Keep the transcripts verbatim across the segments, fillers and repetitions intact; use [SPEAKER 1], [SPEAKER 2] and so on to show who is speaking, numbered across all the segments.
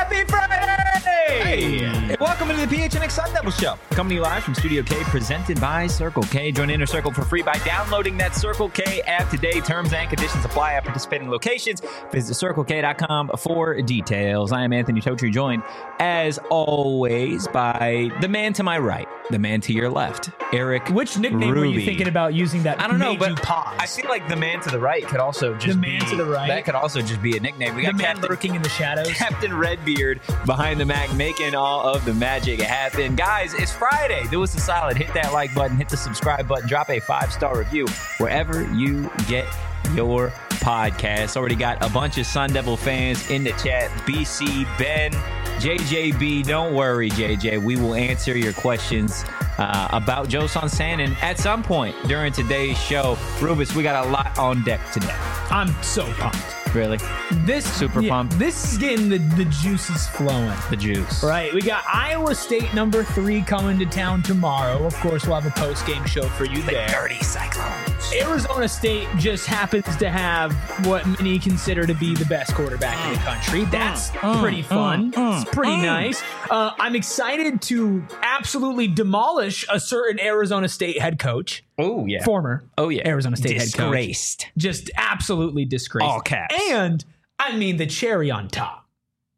[SPEAKER 1] Happy Friday! Hey. And welcome to the P H N X Sun Devil Show. Coming to you live from Studio K, presented by Circle K. Join Inner Circle for free by downloading that Circle K app today. Terms and conditions apply at participating locations. Visit circle k dot com for details. I am Anthony Totri, joined, as always, by the man to my right, the man to your left, Eric
[SPEAKER 2] Which nickname
[SPEAKER 1] Ruby.
[SPEAKER 2] were you thinking about using that
[SPEAKER 1] I don't know,
[SPEAKER 2] made
[SPEAKER 1] but
[SPEAKER 2] you pause?
[SPEAKER 1] I feel like the man to the right could also just
[SPEAKER 2] The man
[SPEAKER 1] be,
[SPEAKER 2] to the right?
[SPEAKER 1] That could also just be a nickname. We
[SPEAKER 2] the
[SPEAKER 1] got
[SPEAKER 2] man
[SPEAKER 1] Captain,
[SPEAKER 2] lurking in the shadows.
[SPEAKER 1] Captain Redbeard behind the Mac, making all of the magic happen. Guys, it's Friday. Do us a solid. Hit that like button. Hit the subscribe button. Drop a five-star review wherever you get your podcast. Already got a bunch of Sun Devil fans in the chat. B C, Ben, J J B. Don't worry, J J. We will answer your questions uh, about Joe Sansanin at some point during today's show. Rubus, we got a lot on deck today.
[SPEAKER 2] I'm so pumped.
[SPEAKER 1] Really?
[SPEAKER 2] This
[SPEAKER 1] Super
[SPEAKER 2] yeah,
[SPEAKER 1] pumped.
[SPEAKER 2] This is getting the, the juices flowing.
[SPEAKER 1] The juice.
[SPEAKER 2] Right. We got Iowa State number three coming to town tomorrow. Of course, we'll have a post-game show for you
[SPEAKER 1] The
[SPEAKER 2] there.
[SPEAKER 1] dirty Cyclones.
[SPEAKER 2] Arizona State just happens to have what many consider to be the best quarterback in the country. That's
[SPEAKER 1] mm,
[SPEAKER 2] pretty fun.
[SPEAKER 1] mm,
[SPEAKER 2] it's pretty
[SPEAKER 1] mm.
[SPEAKER 2] nice. Uh, I'm excited to absolutely demolish a certain Arizona State head coach.
[SPEAKER 1] Oh, yeah.
[SPEAKER 2] Former
[SPEAKER 1] Oh, yeah.
[SPEAKER 2] Arizona State head coach.
[SPEAKER 1] Disgraced.
[SPEAKER 2] Just absolutely disgraced.
[SPEAKER 1] All caps.
[SPEAKER 2] And, I mean, the cherry on top.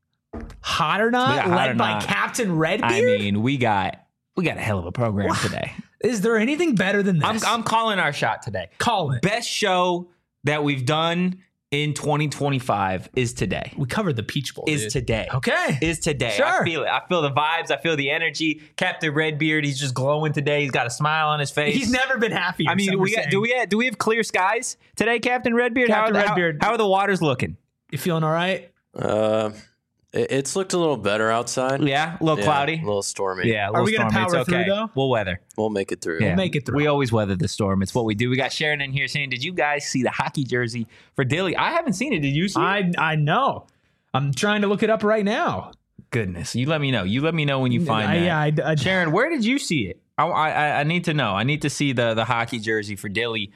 [SPEAKER 2] Hot or
[SPEAKER 1] We
[SPEAKER 2] not,
[SPEAKER 1] got hot
[SPEAKER 2] led
[SPEAKER 1] or
[SPEAKER 2] by
[SPEAKER 1] not.
[SPEAKER 2] Captain Redbeard.
[SPEAKER 1] I mean, we got we got a hell of a program today.
[SPEAKER 2] Is there anything better than this?
[SPEAKER 1] I'm, I'm calling our shot today.
[SPEAKER 2] Call it.
[SPEAKER 1] Best show that we've done in twenty twenty-five is today.
[SPEAKER 2] We covered the Peach Bowl,
[SPEAKER 1] Is
[SPEAKER 2] dude.
[SPEAKER 1] today.
[SPEAKER 2] Okay.
[SPEAKER 1] Is today.
[SPEAKER 2] Sure.
[SPEAKER 1] I feel it. I feel the vibes. I feel the energy. Captain Redbeard, he's just glowing today. He's got a smile on his face.
[SPEAKER 2] He's never been happier.
[SPEAKER 1] I mean,
[SPEAKER 2] some
[SPEAKER 1] we
[SPEAKER 2] are
[SPEAKER 1] got,
[SPEAKER 2] saying.
[SPEAKER 1] do we have, do we have clear skies today, Captain Redbeard?
[SPEAKER 2] Captain
[SPEAKER 1] how are the,
[SPEAKER 2] Redbeard.
[SPEAKER 1] How, how are the waters looking?
[SPEAKER 2] You feeling all right?
[SPEAKER 3] Uh, it, it's looked a little better outside.
[SPEAKER 1] Yeah, a little
[SPEAKER 3] Yeah,
[SPEAKER 1] cloudy.
[SPEAKER 3] a little stormy.
[SPEAKER 1] Yeah, a
[SPEAKER 2] Are
[SPEAKER 1] little
[SPEAKER 2] we gonna
[SPEAKER 1] stormy. It's
[SPEAKER 2] power through,
[SPEAKER 1] okay.
[SPEAKER 2] though?
[SPEAKER 1] We'll weather.
[SPEAKER 3] We'll make it through.
[SPEAKER 1] Yeah.
[SPEAKER 2] make it through.
[SPEAKER 1] We always weather the storm. It's what we do. We got Sharon in here saying, did you guys see the hockey jersey for Dilly? I haven't seen it. Did you see it?
[SPEAKER 2] I I know. I'm trying to look it up right now.
[SPEAKER 1] Goodness. You let me know. You let me know when you find
[SPEAKER 2] I,
[SPEAKER 1] that.
[SPEAKER 2] yeah, I, I,
[SPEAKER 1] Sharon, where did you see it? I, I, I need to know. I need to see the, the hockey jersey for Dilly.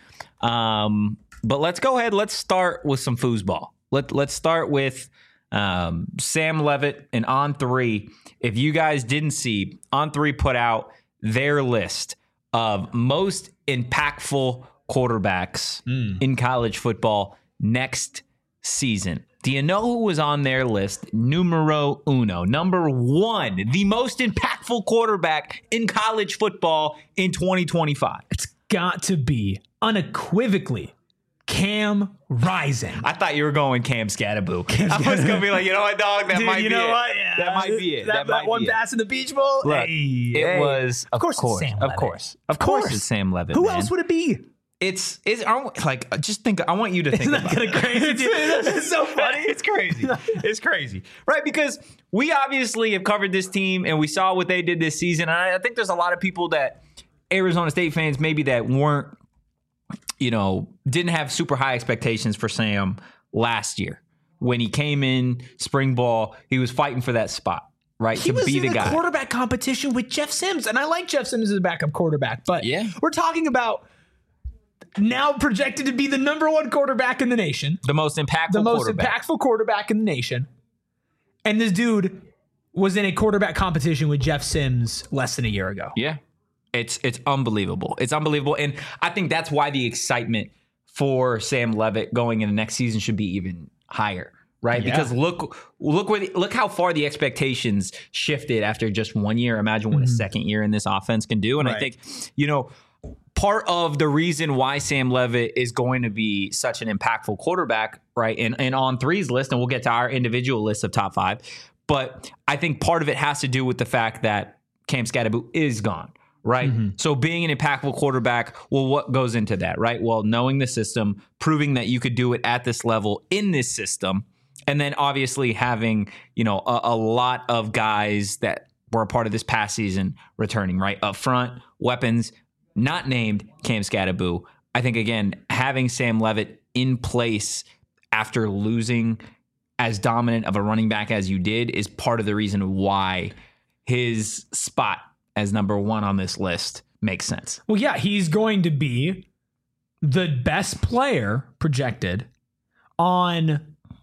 [SPEAKER 1] Um, but let's go ahead. Let's start with some foosball. Let, let's start with um, Sam Levitt and On three. If you guys didn't see, On three put out their list of most impactful quarterbacks in college football next season. Do you know who was on their list? Numero uno. Number one, the most impactful quarterback in college football in twenty twenty-five.
[SPEAKER 2] it's got to be unequivocally Cam Rising.
[SPEAKER 1] I thought you were going Cam Scattaboo. I was going to be like, you know what, dog? That
[SPEAKER 2] Dude,
[SPEAKER 1] might
[SPEAKER 2] you
[SPEAKER 1] be
[SPEAKER 2] know
[SPEAKER 1] it.
[SPEAKER 2] what? Yeah.
[SPEAKER 1] That might be it.
[SPEAKER 2] That,
[SPEAKER 1] That,
[SPEAKER 2] that
[SPEAKER 1] might
[SPEAKER 2] one
[SPEAKER 1] be it.
[SPEAKER 2] pass in the Beach Bowl.
[SPEAKER 1] Look,
[SPEAKER 2] Hey,
[SPEAKER 1] it
[SPEAKER 2] hey.
[SPEAKER 1] was, of,
[SPEAKER 2] Of course it's
[SPEAKER 1] course,
[SPEAKER 2] Sam
[SPEAKER 1] of
[SPEAKER 2] Levitt.
[SPEAKER 1] course, of
[SPEAKER 2] Of
[SPEAKER 1] course,
[SPEAKER 2] course.
[SPEAKER 1] it's Sam Levitt.
[SPEAKER 2] Who
[SPEAKER 1] man.
[SPEAKER 2] else would it be?
[SPEAKER 1] It's is I don't- like just think. I want you to think
[SPEAKER 2] Isn't
[SPEAKER 1] about
[SPEAKER 2] that
[SPEAKER 1] it.
[SPEAKER 2] kinda crazy? It's so funny.
[SPEAKER 1] It's crazy. It's crazy, right? Because we obviously have covered this team and we saw what they did this season. And I, I think there's a lot of people that Arizona State fans maybe that weren't, you know, didn't have super high expectations for Sam last year when he came in spring ball. He was fighting for that spot, right?
[SPEAKER 2] He
[SPEAKER 1] to
[SPEAKER 2] was
[SPEAKER 1] be
[SPEAKER 2] in
[SPEAKER 1] the
[SPEAKER 2] a
[SPEAKER 1] guy.
[SPEAKER 2] quarterback competition with Jeff Sims, and I like Jeff Sims as a backup quarterback, but
[SPEAKER 1] Yeah.
[SPEAKER 2] we're talking about now projected to be the number one quarterback in the nation,
[SPEAKER 1] The most impactful
[SPEAKER 2] the most
[SPEAKER 1] quarterback.
[SPEAKER 2] impactful quarterback in the nation, and this dude was in a quarterback competition with Jeff Sims less than a year ago.
[SPEAKER 1] Yeah. It's it's unbelievable. It's unbelievable. And I think that's why the excitement for Sam Levitt going into next season should be even higher, right?
[SPEAKER 2] Yeah.
[SPEAKER 1] Because look look where the, look how far the expectations shifted after just one year. Imagine what a second year in this offense can do. And I
[SPEAKER 2] Right.
[SPEAKER 1] think, you know, part of the reason why Sam Levitt is going to be such an impactful quarterback, right? And and on three's list, and we'll get to our individual list of top five. But I think part of it has to do with the fact that Cam Scattaboo is gone, right? So being an impactful quarterback, well, what goes into that, right? Well, knowing the system, proving that you could do it at this level in this system, and then obviously having, you know, a, a lot of guys that were a part of this past season returning, right? Up front, weapons, not named Cam Scattaboo. I think, again, having Sam Levitt in place after losing as dominant of a running back as you did is part of the reason why his spot as number one on this list makes sense.
[SPEAKER 2] Well, yeah, he's going to be the best player projected on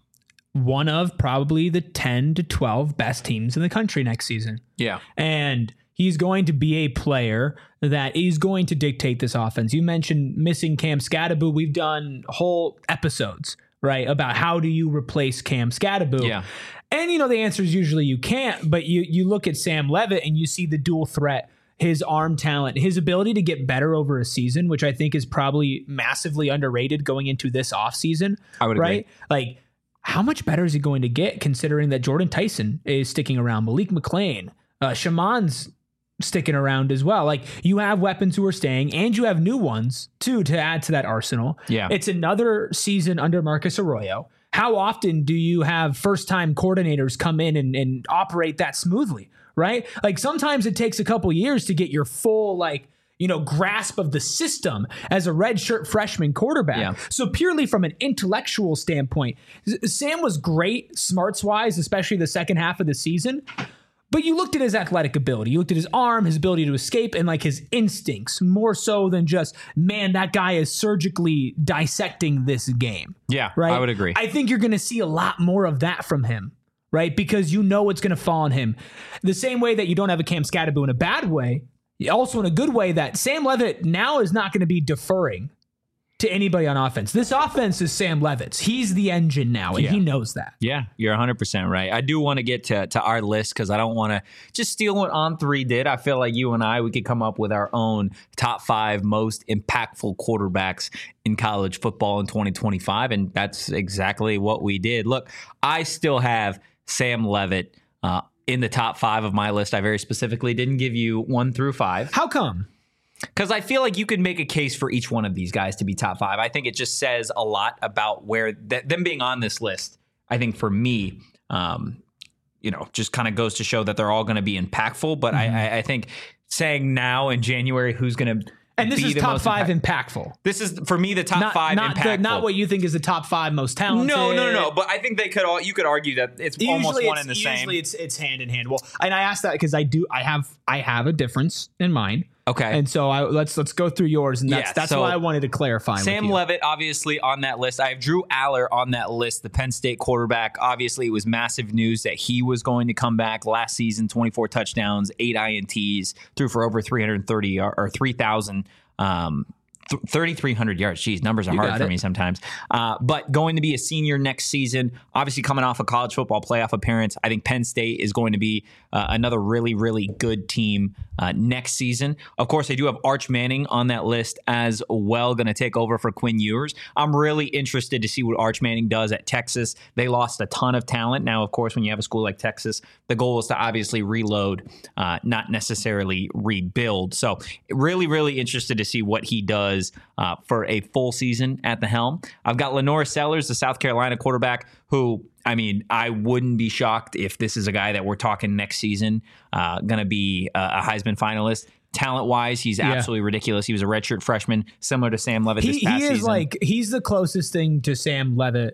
[SPEAKER 2] one of probably the ten to twelve best teams in the country next season.
[SPEAKER 1] Yeah.
[SPEAKER 2] And he's going to be a player that is going to dictate this offense. You mentioned missing Cam Scadaboo. We've done whole episodes, right, about how do you replace Cam Scadaboo.
[SPEAKER 1] Yeah.
[SPEAKER 2] And, you know, the answer is usually you can't, but you you look at Sam Levitt and you see the dual threat, his arm talent, his ability to get better over a season, which I think is probably massively underrated going into this offseason.
[SPEAKER 1] I would
[SPEAKER 2] right?
[SPEAKER 1] agree.
[SPEAKER 2] Like, how much better is he going to get considering that Jordan Tyson is sticking around, Malik McLean, uh, Shaman's sticking around as well. Like, you have weapons who are staying and you have new ones too to add to that arsenal.
[SPEAKER 1] Yeah.
[SPEAKER 2] It's another season under Marcus Arroyo. How often do you have first-time coordinators come in and, and operate that smoothly, right? Like, sometimes it takes a couple years to get your full, like, you know, grasp of the system as a redshirt freshman quarterback.
[SPEAKER 1] Yeah.
[SPEAKER 2] So purely from an intellectual standpoint, Sam was great smarts-wise, especially the second half of the season. But you looked at his athletic ability. You looked at his arm, his ability to escape, and like his instincts more so than just, man, that guy is surgically dissecting this game.
[SPEAKER 1] Yeah,
[SPEAKER 2] right?
[SPEAKER 1] I would agree.
[SPEAKER 2] I think you're going to see a lot more of that from him, right? Because you know it's going to fall on him. The same way that you don't have a Cam Scadaboo in a bad way, also in a good way, that Sam Levitt now is not going to be deferring to anybody on offense. This offense is Sam Levitt's. He's the engine now, and
[SPEAKER 1] Yeah.
[SPEAKER 2] he knows that.
[SPEAKER 1] Yeah, you're one hundred percent right. I do want to get to, to our list because I don't want to just steal what On three did. I feel like you and I, we could come up with our own top five most impactful quarterbacks in college football in twenty twenty-five, and that's exactly what we did. Look, I still have Sam Levitt uh, in the top five of my list. I very specifically didn't give you one through five.
[SPEAKER 2] How come?
[SPEAKER 1] Because I feel like you could make a case for each one of these guys to be top five. I think it just says a lot about where th- them being on this list. I think for me, um, you know, just kind of goes to show that they're all going to be impactful. But mm-hmm. I, I think saying now in January who's going to
[SPEAKER 2] and this
[SPEAKER 1] be
[SPEAKER 2] is
[SPEAKER 1] the
[SPEAKER 2] top
[SPEAKER 1] most
[SPEAKER 2] five
[SPEAKER 1] impact-
[SPEAKER 2] impactful.
[SPEAKER 1] This is for me the top
[SPEAKER 2] not,
[SPEAKER 1] five
[SPEAKER 2] not
[SPEAKER 1] impactful.
[SPEAKER 2] The, not what you think is the top five most talented.
[SPEAKER 1] No, no, no, no. But I think they could all. You could argue that it's
[SPEAKER 2] usually
[SPEAKER 1] almost one
[SPEAKER 2] it's,
[SPEAKER 1] and the
[SPEAKER 2] usually
[SPEAKER 1] same.
[SPEAKER 2] Usually it's it's hand in hand. Well, and I asked that because I do. I have I have a difference in mind.
[SPEAKER 1] Okay.
[SPEAKER 2] And so I, let's let's go through yours, and that's
[SPEAKER 1] Yeah,
[SPEAKER 2] that's
[SPEAKER 1] so
[SPEAKER 2] why I wanted to clarify.
[SPEAKER 1] Sam
[SPEAKER 2] with you.
[SPEAKER 1] Levitt, obviously on that list. I have Drew Aller on that list, the Penn State quarterback. Obviously, it was massive news that he was going to come back last season. twenty-four touchdowns, eight I N Ts, threw for over three hundred thirty or, or three thousand. Um, thirty-three hundred yards. Jeez, numbers are
[SPEAKER 2] You
[SPEAKER 1] hard
[SPEAKER 2] got
[SPEAKER 1] for
[SPEAKER 2] it.
[SPEAKER 1] me sometimes. Uh, but going to be a senior next season, obviously coming off a college football playoff appearance, I think Penn State is going to be uh, another really, really good team uh, next season. Of course, I do have Arch Manning on that list as well, going to take over for Quinn Ewers. I'm really interested to see what Arch Manning does at Texas. They lost a ton of talent. Now, of course, when you have a school like Texas, the goal is to obviously reload, uh, not necessarily rebuild. So really, really interested to see what he does Uh, for a full season at the helm. I've got Lenore Sellers, the South Carolina quarterback, who, I mean, I wouldn't be shocked if this is a guy that we're talking next season, uh, going to be a, a Heisman finalist. Talent-wise, he's
[SPEAKER 2] Yeah.
[SPEAKER 1] absolutely ridiculous. He was a redshirt freshman, similar to Sam Levitt
[SPEAKER 2] He,
[SPEAKER 1] this past
[SPEAKER 2] he is
[SPEAKER 1] season.
[SPEAKER 2] like he's the closest thing to Sam Levitt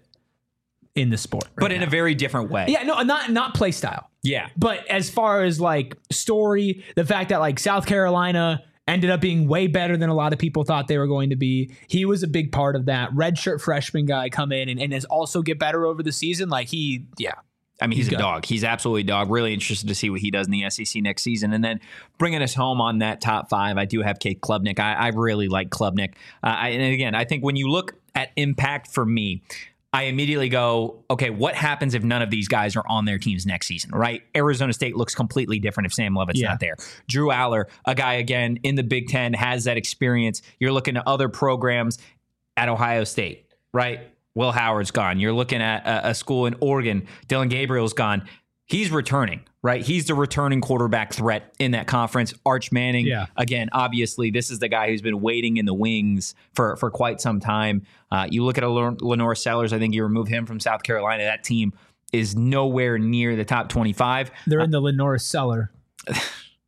[SPEAKER 2] in the sport, right
[SPEAKER 1] but in
[SPEAKER 2] now.
[SPEAKER 1] a very different way.
[SPEAKER 2] yeah, no, not not play style.
[SPEAKER 1] Yeah.
[SPEAKER 2] But as far as like story, the fact that like South Carolina ended up being way better than a lot of people thought they were going to be. He was a big part of that. Redshirt freshman guy come in and, and has also get better over the season. Like he, yeah.
[SPEAKER 1] I mean, he's,
[SPEAKER 2] He's
[SPEAKER 1] a
[SPEAKER 2] good.
[SPEAKER 1] dog. He's absolutely a dog. Really interested to see what he does in the S E C next season. And then bringing us home on that top five, I do have Kate Klubnik. I, I really like Klubnik. Uh, I, and again, I think when you look at impact for me, I immediately go, okay, what happens if none of these guys are on their teams next season, right? Arizona State looks completely different if Sam Levitt's
[SPEAKER 2] Yeah.
[SPEAKER 1] not there. Drew Aller, a guy, again, in the Big Ten, has that experience. You're looking at other programs at Ohio State, right? Will Howard's gone. You're looking at a, a school in Oregon. Dylan Gabriel's gone. He's returning, right? He's the returning quarterback threat in that conference. Arch Manning,
[SPEAKER 2] Yeah.
[SPEAKER 1] again, obviously, this is the guy who's been waiting in the wings for, for quite some time. Uh, you look at a Lenore Sellers, I think you remove him from South Carolina, that team is nowhere near the top twenty-five.
[SPEAKER 2] They're in the Lenore cellar.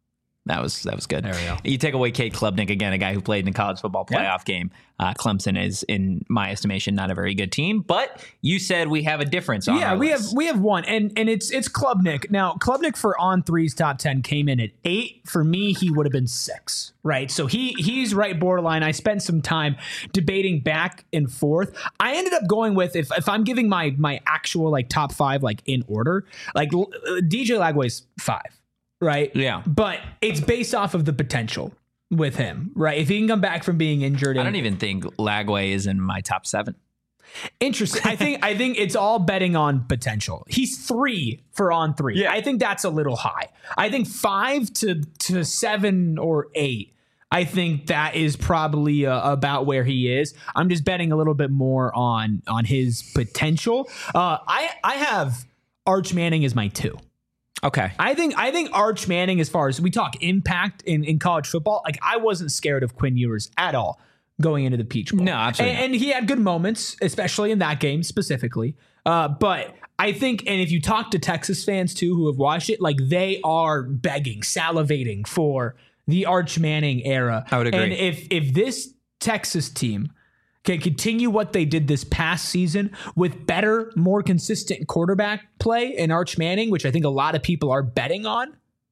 [SPEAKER 1] That was that was good.
[SPEAKER 2] There we go.
[SPEAKER 1] You take away Cade Klubnik again, a guy who played in the college football playoff
[SPEAKER 2] Yeah.
[SPEAKER 1] game. Uh, Clemson is, in my estimation, not a very good team. But you said we have a difference. On
[SPEAKER 2] Yeah,
[SPEAKER 1] our
[SPEAKER 2] we
[SPEAKER 1] list.
[SPEAKER 2] have we have one, and and it's it's Klubnik. Now Klubnik for on three's top ten came in at eight. For me, he would have been six, right? So he he's right borderline. I spent some time debating back and forth. I ended up going with if if I'm giving my my actual like top five like in order, like uh, D J Lagway's five. Right.
[SPEAKER 1] Yeah.
[SPEAKER 2] But it's based off of the potential with him, right? If he can come back from being injured.
[SPEAKER 1] I
[SPEAKER 2] and-
[SPEAKER 1] don't even think Lagway is in my top seven.
[SPEAKER 2] Interesting. I think I think it's all betting on potential. He's three for on three.
[SPEAKER 1] Yeah.
[SPEAKER 2] I think that's a little high. I think five to to seven or eight. I think that is probably uh, about where he is. I'm just betting a little bit more on on his potential. Uh, I I have Arch Manning as my two.
[SPEAKER 1] Okay.
[SPEAKER 2] I think I think Arch Manning, as far as we talk impact in, in college football, like I wasn't scared of Quinn Ewers at all going into the Peach Bowl.
[SPEAKER 1] No, absolutely
[SPEAKER 2] And, and he had good moments, especially in that game specifically. Uh, but I think, and if you talk to Texas fans too who have watched it, like they are begging, salivating for the Arch Manning era.
[SPEAKER 1] I would agree.
[SPEAKER 2] And if if this Texas team can continue what they did this past season with better, more consistent quarterback play in Arch Manning, which I think a lot of people are betting on,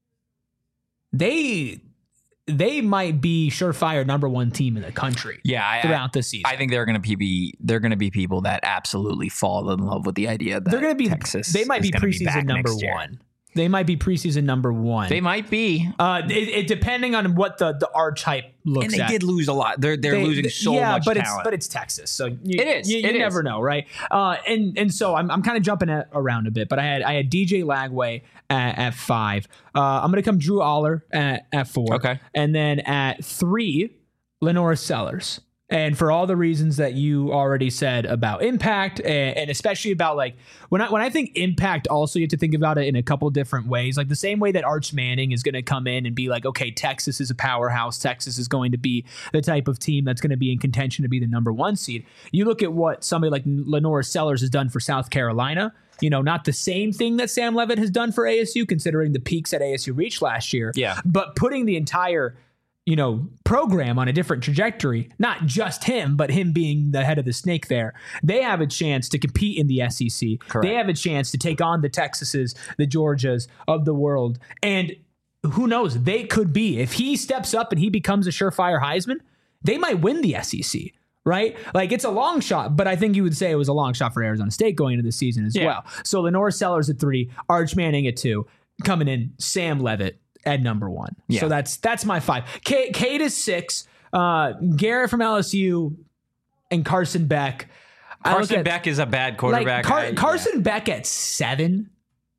[SPEAKER 2] they they might be surefire number one team in the country.
[SPEAKER 1] Yeah, I,
[SPEAKER 2] throughout the season.
[SPEAKER 1] I think they're going to be they're going to be people that absolutely fall in love with the idea that
[SPEAKER 2] they're going to be
[SPEAKER 1] Texas.
[SPEAKER 2] They might
[SPEAKER 1] is
[SPEAKER 2] be
[SPEAKER 1] gonna
[SPEAKER 2] preseason
[SPEAKER 1] back
[SPEAKER 2] number
[SPEAKER 1] next year.
[SPEAKER 2] one. They might be preseason number one.
[SPEAKER 1] They might be.
[SPEAKER 2] uh, it, it depending on what the the Arch hype looks
[SPEAKER 1] And they
[SPEAKER 2] at.
[SPEAKER 1] did lose a lot. They're they're
[SPEAKER 2] They-
[SPEAKER 1] losing so
[SPEAKER 2] yeah,
[SPEAKER 1] much
[SPEAKER 2] but
[SPEAKER 1] talent.
[SPEAKER 2] it's but it's Texas, so you,
[SPEAKER 1] It is,
[SPEAKER 2] You, you
[SPEAKER 1] it is.
[SPEAKER 2] never know, right? Uh, and and so I'm I'm kind of jumping at, around a bit, but I had I had D J Lagway at, at five. Uh, I'm gonna come Drew Aller at, at four.
[SPEAKER 1] Okay.
[SPEAKER 2] And then at three, Lenora Sellers. And for all the reasons that you already said about impact, and, and especially about like when I when I think impact, also you have to think about it in a couple different ways. Like the same way that Arch Manning is going to come in and be like, okay, Texas is a powerhouse. Texas is going to be the type of team that's going to be in contention to be the number one seed. You look at what somebody like Lenora Sellers has done for South Carolina. You know, not the same thing that Sam Leavitt has done for A S U, considering the peaks that A S U reached last year.
[SPEAKER 1] Yeah.
[SPEAKER 2] But putting the entire you know, program on a different trajectory, not just him, but him being the head of the snake there. They have a chance to compete in the S E C.
[SPEAKER 1] Correct.
[SPEAKER 2] They have a chance to take on the Texases, the Georgias of the world. And who knows, they could be, if he steps up and he becomes a surefire Heisman, they might win the S E C. Right? Like it's a long shot, but I think you would say it was a long shot for Arizona State going into the season as
[SPEAKER 1] Yeah.
[SPEAKER 2] well. So Lenore Sellers at three, Arch Manning at two, coming in Sam Leavitt at number one.
[SPEAKER 1] Yeah.
[SPEAKER 2] So that's that's my five. K- Cade is six. Uh, Garrett from L S U and Carson Beck. I look
[SPEAKER 1] Carson
[SPEAKER 2] at-
[SPEAKER 1] Beck is a bad
[SPEAKER 2] like
[SPEAKER 1] quarterback.
[SPEAKER 2] Car-
[SPEAKER 1] I-
[SPEAKER 2] Carson Beck at seven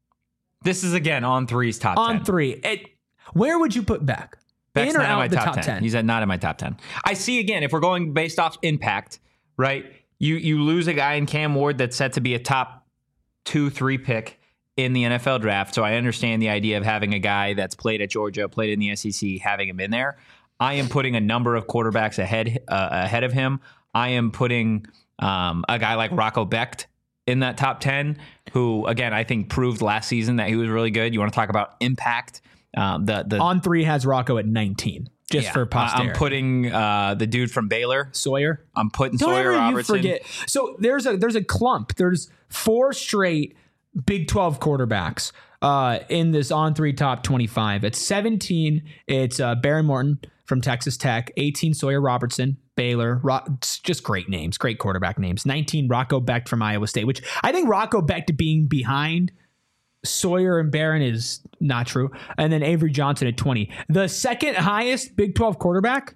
[SPEAKER 1] This is again on three's top
[SPEAKER 2] on
[SPEAKER 1] ten.
[SPEAKER 2] three. It, where would you put Beck?
[SPEAKER 1] Beck's
[SPEAKER 2] in or
[SPEAKER 1] not in
[SPEAKER 2] out
[SPEAKER 1] my
[SPEAKER 2] the
[SPEAKER 1] top,
[SPEAKER 2] top
[SPEAKER 1] ten.
[SPEAKER 2] ten?
[SPEAKER 1] He's at, not in my top ten. I see again, if we're going based off impact, right? You you lose a guy in Cam Ward that's set to be a top two, three pick in the N F L draft. So I understand the idea of having a guy that's played at Georgia, played in the S E C, having him in there. I am putting a number of quarterbacks ahead uh, ahead of him. I am putting um, a guy like Rocco Becht in that top ten, who again I think proved last season that he was really good. You want to talk about impact? Um, the the
[SPEAKER 2] On three has Rocco at nineteen, just
[SPEAKER 1] yeah,
[SPEAKER 2] for
[SPEAKER 1] I-
[SPEAKER 2] posterity.
[SPEAKER 1] I'm putting uh, the dude from Baylor.
[SPEAKER 2] Sawyer.
[SPEAKER 1] I'm putting
[SPEAKER 2] Don't
[SPEAKER 1] Sawyer
[SPEAKER 2] ever you
[SPEAKER 1] Robertson.
[SPEAKER 2] forget. So there's a there's a clump. There's four straight Big twelve quarterbacks uh, in this on three top twenty-five. At seventeen, it's uh, Barry Morton from Texas Tech. eighteen, Sawyer Robertson, Baylor. Ro- it's just great names, great quarterback names. nineteen, Rocco Becht from Iowa State, which I think Rocco Becht being behind Sawyer and Barron is not true. And then Avery Johnson at twenty. The second highest Big twelve quarterback,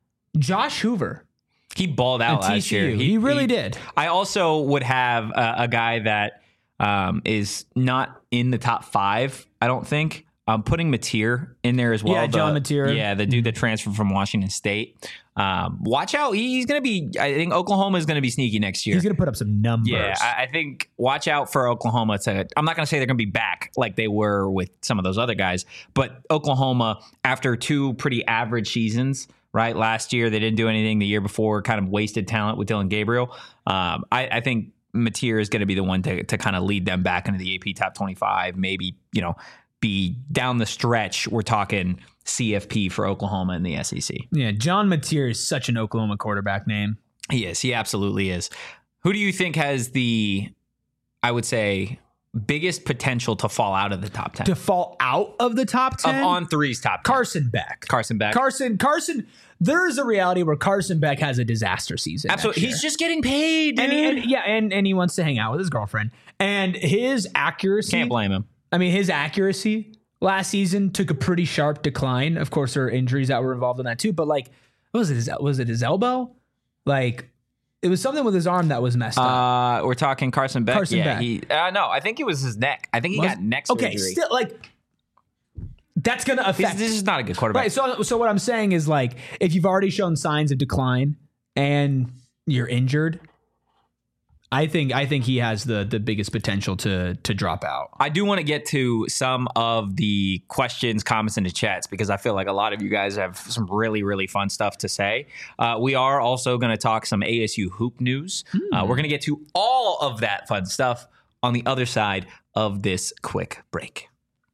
[SPEAKER 2] Josh Hoover.
[SPEAKER 1] He balled out
[SPEAKER 2] At
[SPEAKER 1] last
[SPEAKER 2] T C U.
[SPEAKER 1] year.
[SPEAKER 2] He really did.
[SPEAKER 1] I also would have a, a guy that um, is not in the top five. I don't think. I'm putting Mateer in there as well.
[SPEAKER 2] Yeah, John
[SPEAKER 1] the,
[SPEAKER 2] Mateer.
[SPEAKER 1] Yeah, the dude that transferred from Washington State. Um, watch out. He's going to be, I think Oklahoma is going to be sneaky next year.
[SPEAKER 2] He's going to put up some numbers.
[SPEAKER 1] Yeah, I, I think watch out for Oklahoma. To, I'm not going to say they're going to be back like they were with some of those other guys, but Oklahoma, after two pretty average seasons, right? Last year, they didn't do anything. The year before, kind of wasted talent with Dylan Gabriel. Um, I, I think Mateer is going to be the one to, to kind of lead them back into the A P top twenty-five, maybe, you know, be down the stretch. We're talking C F P for Oklahoma in the S E C.
[SPEAKER 2] Yeah, John Mateer is such an Oklahoma quarterback name.
[SPEAKER 1] He is. He absolutely is. Who do you think has the, I would say, biggest potential to fall out of the top ten?
[SPEAKER 2] To fall out of the top ten?
[SPEAKER 1] Of On three's top ten.
[SPEAKER 2] Carson Beck.
[SPEAKER 1] Carson Beck.
[SPEAKER 2] Carson, Carson, there is a reality where Carson Beck has a disaster season.
[SPEAKER 1] Absolutely. He's just getting paid, dude.
[SPEAKER 2] And, he, and yeah, and, and he wants to hang out with his girlfriend. And his accuracy.
[SPEAKER 1] Can't blame him.
[SPEAKER 2] I mean, his accuracy last season took a pretty sharp decline. Of course, there are injuries that were involved in that too. But like, what was it? His, was it his elbow? Like, it was something with his arm that was messed up.
[SPEAKER 1] Uh, we're talking Carson Beck.
[SPEAKER 2] Carson
[SPEAKER 1] yeah,
[SPEAKER 2] Beck.
[SPEAKER 1] He, uh, no, I think it was his neck. I think he
[SPEAKER 2] Was-
[SPEAKER 1] got neck surgery.
[SPEAKER 2] Okay, still like that's going to
[SPEAKER 1] This,
[SPEAKER 2] affect.
[SPEAKER 1] this is not a good quarterback.
[SPEAKER 2] Right. So, so what I'm saying is like, if you've already shown signs of decline and you're injured, I think I think he has the the biggest potential to to drop out.
[SPEAKER 1] I do want to get to some of the questions, comments in the chats because I feel like a lot of you guys have some really, really fun stuff to say. Uh, we are also going to talk some A S U hoop news.
[SPEAKER 2] Hmm.
[SPEAKER 1] Uh, we're going to get to all of that fun stuff on the other side of this quick break.